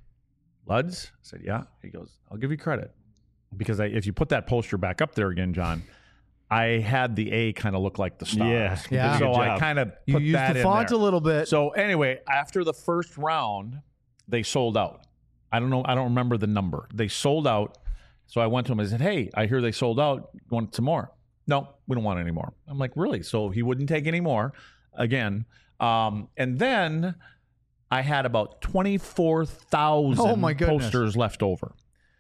Speaker 1: Luds? I said, yeah. He goes, I'll give you credit. Because if you put that poster back up there again, John, I had the A kind of look like the stars.
Speaker 2: Yeah.
Speaker 1: So I kind of put
Speaker 2: used
Speaker 1: that
Speaker 2: the
Speaker 1: in
Speaker 2: font
Speaker 1: there.
Speaker 2: a little bit.
Speaker 1: So anyway, after the first round, they sold out. I don't know. I don't remember the number. They sold out. So I went to him. I said, "Hey, I hear they sold out. You want some more?" "No, we don't want any more." I'm like, "Really?" So he wouldn't take any more again. And then I had about 24,000 posters left over.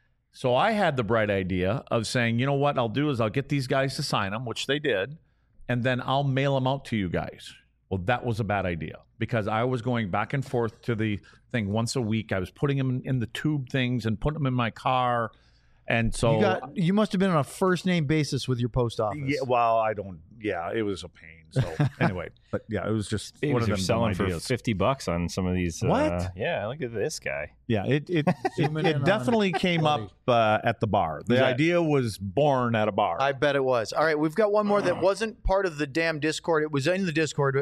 Speaker 1: So I had the bright idea of saying, you know what I'll do is I'll get these guys to sign them, which they did, and then I'll mail them out to you guys. Well, that was a bad idea because I was going back and forth to the thing once a week. I was putting them in the tube things and putting them in my car. And so
Speaker 2: you must have been on a first name basis with your post office.
Speaker 1: Yeah, well, I don't. Yeah, it was a pain. So anyway, but yeah, it was just one of them
Speaker 5: selling for
Speaker 1: ideas.
Speaker 5: $50 on some of these.
Speaker 1: What?
Speaker 5: Yeah, look at this guy.
Speaker 1: Yeah, it definitely came up at the bar. The idea was born at a bar.
Speaker 2: I bet it was. All right, we've got one more that wasn't part of the damn Discord. It was in the Discord.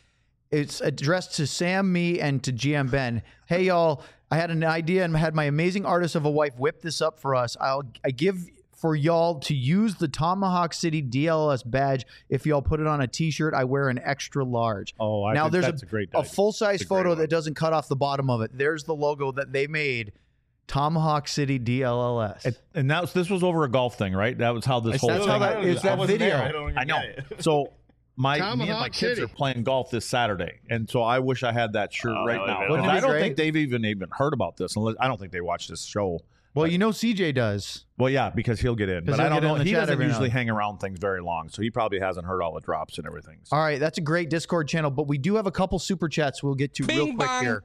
Speaker 2: It's addressed to Sam, me, and to GM Ben. Hey, y'all. I had an idea and had my amazing artist of a wife whip this up for us. I give for y'all to use the Tomahawk City DLS badge. If y'all put it on a T-shirt, I wear an extra large.
Speaker 1: Oh, I
Speaker 2: now
Speaker 1: think
Speaker 2: there's
Speaker 1: that's a great idea.
Speaker 2: a full-size photo that doesn't cut off the bottom of it. There's the logo that they made. Tomahawk City DLLS.
Speaker 1: And this was over a golf thing, right? That was how this whole thing.
Speaker 2: It's that video.
Speaker 1: I know. So me and my kids are playing golf this Saturday, and so I wish I had that shirt right now.
Speaker 2: Wouldn't it be
Speaker 1: I don't
Speaker 2: great?
Speaker 1: think they've even heard about this. Unless I don't think they watch this show.
Speaker 2: Well, you know CJ does.
Speaker 1: Well, yeah, because he'll get in. But
Speaker 2: he'll
Speaker 1: I don't
Speaker 2: get in
Speaker 1: know.
Speaker 2: the
Speaker 1: He
Speaker 2: chat
Speaker 1: doesn't
Speaker 2: every now
Speaker 1: usually
Speaker 2: and
Speaker 1: hang around things very long, so he probably hasn't heard all the drops and everything. So.
Speaker 2: All right, that's a great Discord channel, but we do have a couple super chats we'll get to real quick here.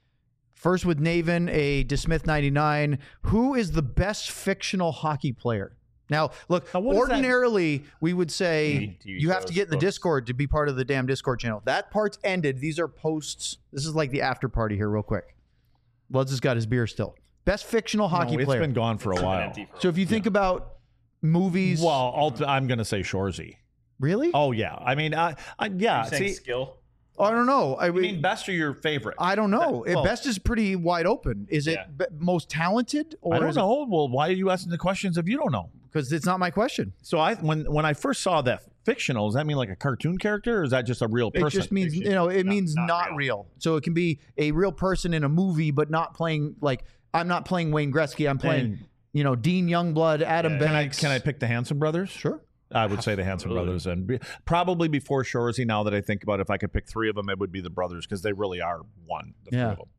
Speaker 2: First with Naven, a DeSmith 99. Who is the best fictional hockey player? Now, look, ordinarily we would say you have to get in the Discord to be part of the damn Discord channel. That part's ended. These are posts. This is like the after party here real quick. Luds has got his beer still. Best fictional hockey player.
Speaker 1: It's been gone for a while.
Speaker 2: So if you think about movies.
Speaker 1: Well, I'm going to say Shoresy.
Speaker 2: Really?
Speaker 1: Oh, yeah. I mean, yeah.
Speaker 5: See, skill?
Speaker 2: I don't know. I
Speaker 1: mean, best or your favorite?
Speaker 2: I don't know. Best is pretty wide open. Is it most talented? Or
Speaker 1: I don't know. Well, why are you asking the questions if you don't know?
Speaker 2: Because it's not my question.
Speaker 1: So when I first saw that fictional, does that mean like a cartoon character, or is that just a real person?
Speaker 2: It just means it means not real. So it can be a real person in a movie, but not playing like I'm not playing Wayne Gretzky. I'm playing Dean Youngblood, Adam Banks.
Speaker 1: Can I pick the Hanson brothers?
Speaker 2: Sure.
Speaker 1: I would say the Hanson brothers, and probably before Shoresy. Now that I think about it, if I could pick three of them, it would be the brothers because they really are one. The three of them.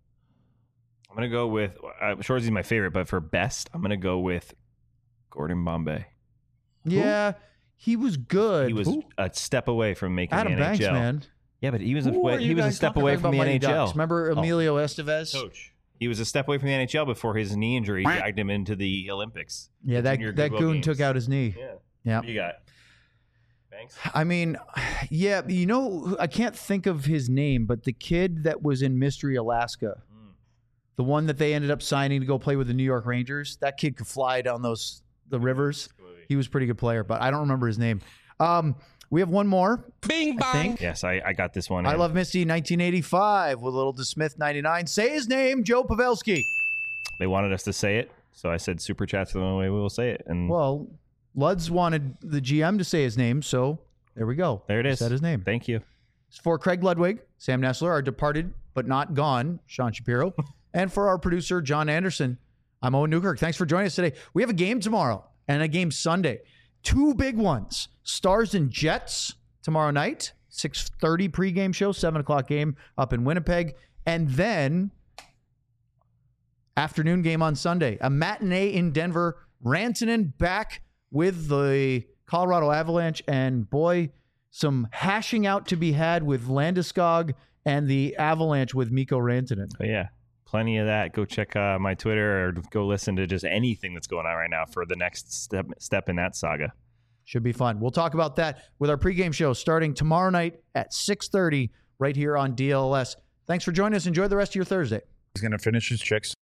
Speaker 5: I'm gonna go with Shoresy's my favorite, but for best, I'm gonna go with Gordon Bombay.
Speaker 2: Yeah, he was good.
Speaker 5: He was a step away from making
Speaker 2: Adam
Speaker 5: the NHL.
Speaker 2: Banks, man.
Speaker 5: Yeah, but he was a step away from the NHL.
Speaker 2: Ducks? Remember Emilio Estevez?
Speaker 5: Coach. He was a step away from the NHL before his knee injury dragged him into the Olympics.
Speaker 2: Yeah, that goon took out his knee.
Speaker 5: Yeah. What you got? Thanks.
Speaker 2: I mean, yeah, I can't think of his name, but the kid that was in Mystery Alaska, the one that they ended up signing to go play with the New York Rangers, that kid could fly down the rivers. He was a pretty good player, but I don't remember his name. We have one more.
Speaker 8: Bing bong.
Speaker 5: Yes, I got this one.
Speaker 2: I Love Misty 1985 with Little DeSmith 99. Say his name, Joe Pavelski.
Speaker 5: They wanted us to say it, so I said super chat's the only way we will say it. And
Speaker 2: well, Luds wanted the GM to say his name, so there we go.
Speaker 5: There it is.
Speaker 2: Said his name.
Speaker 5: Thank you.
Speaker 2: For Craig Ludwig, Sam Nessler, our departed but not gone, Sean Shapiro, and for our producer, John Anderson, I'm Owen Newkirk. Thanks for joining us today. We have a game tomorrow and a game Sunday. Two big ones. Stars and Jets tomorrow night, 6:30 pregame show, 7 o'clock game up in Winnipeg. And then afternoon game on Sunday, a matinee in Denver. Rantanen back with the Colorado Avalanche. And boy, some hashing out to be had with Landeskog and the Avalanche with Mikko Rantanen.
Speaker 5: Oh, yeah. Plenty of that. Go check my Twitter or go listen to just anything that's going on right now for the next step in that saga.
Speaker 2: Should be fun. We'll talk about that with our pregame show starting tomorrow night at 6:30 right here on DLS. Thanks for joining us. Enjoy the rest of your Thursday.
Speaker 1: He's going to finish his chicks.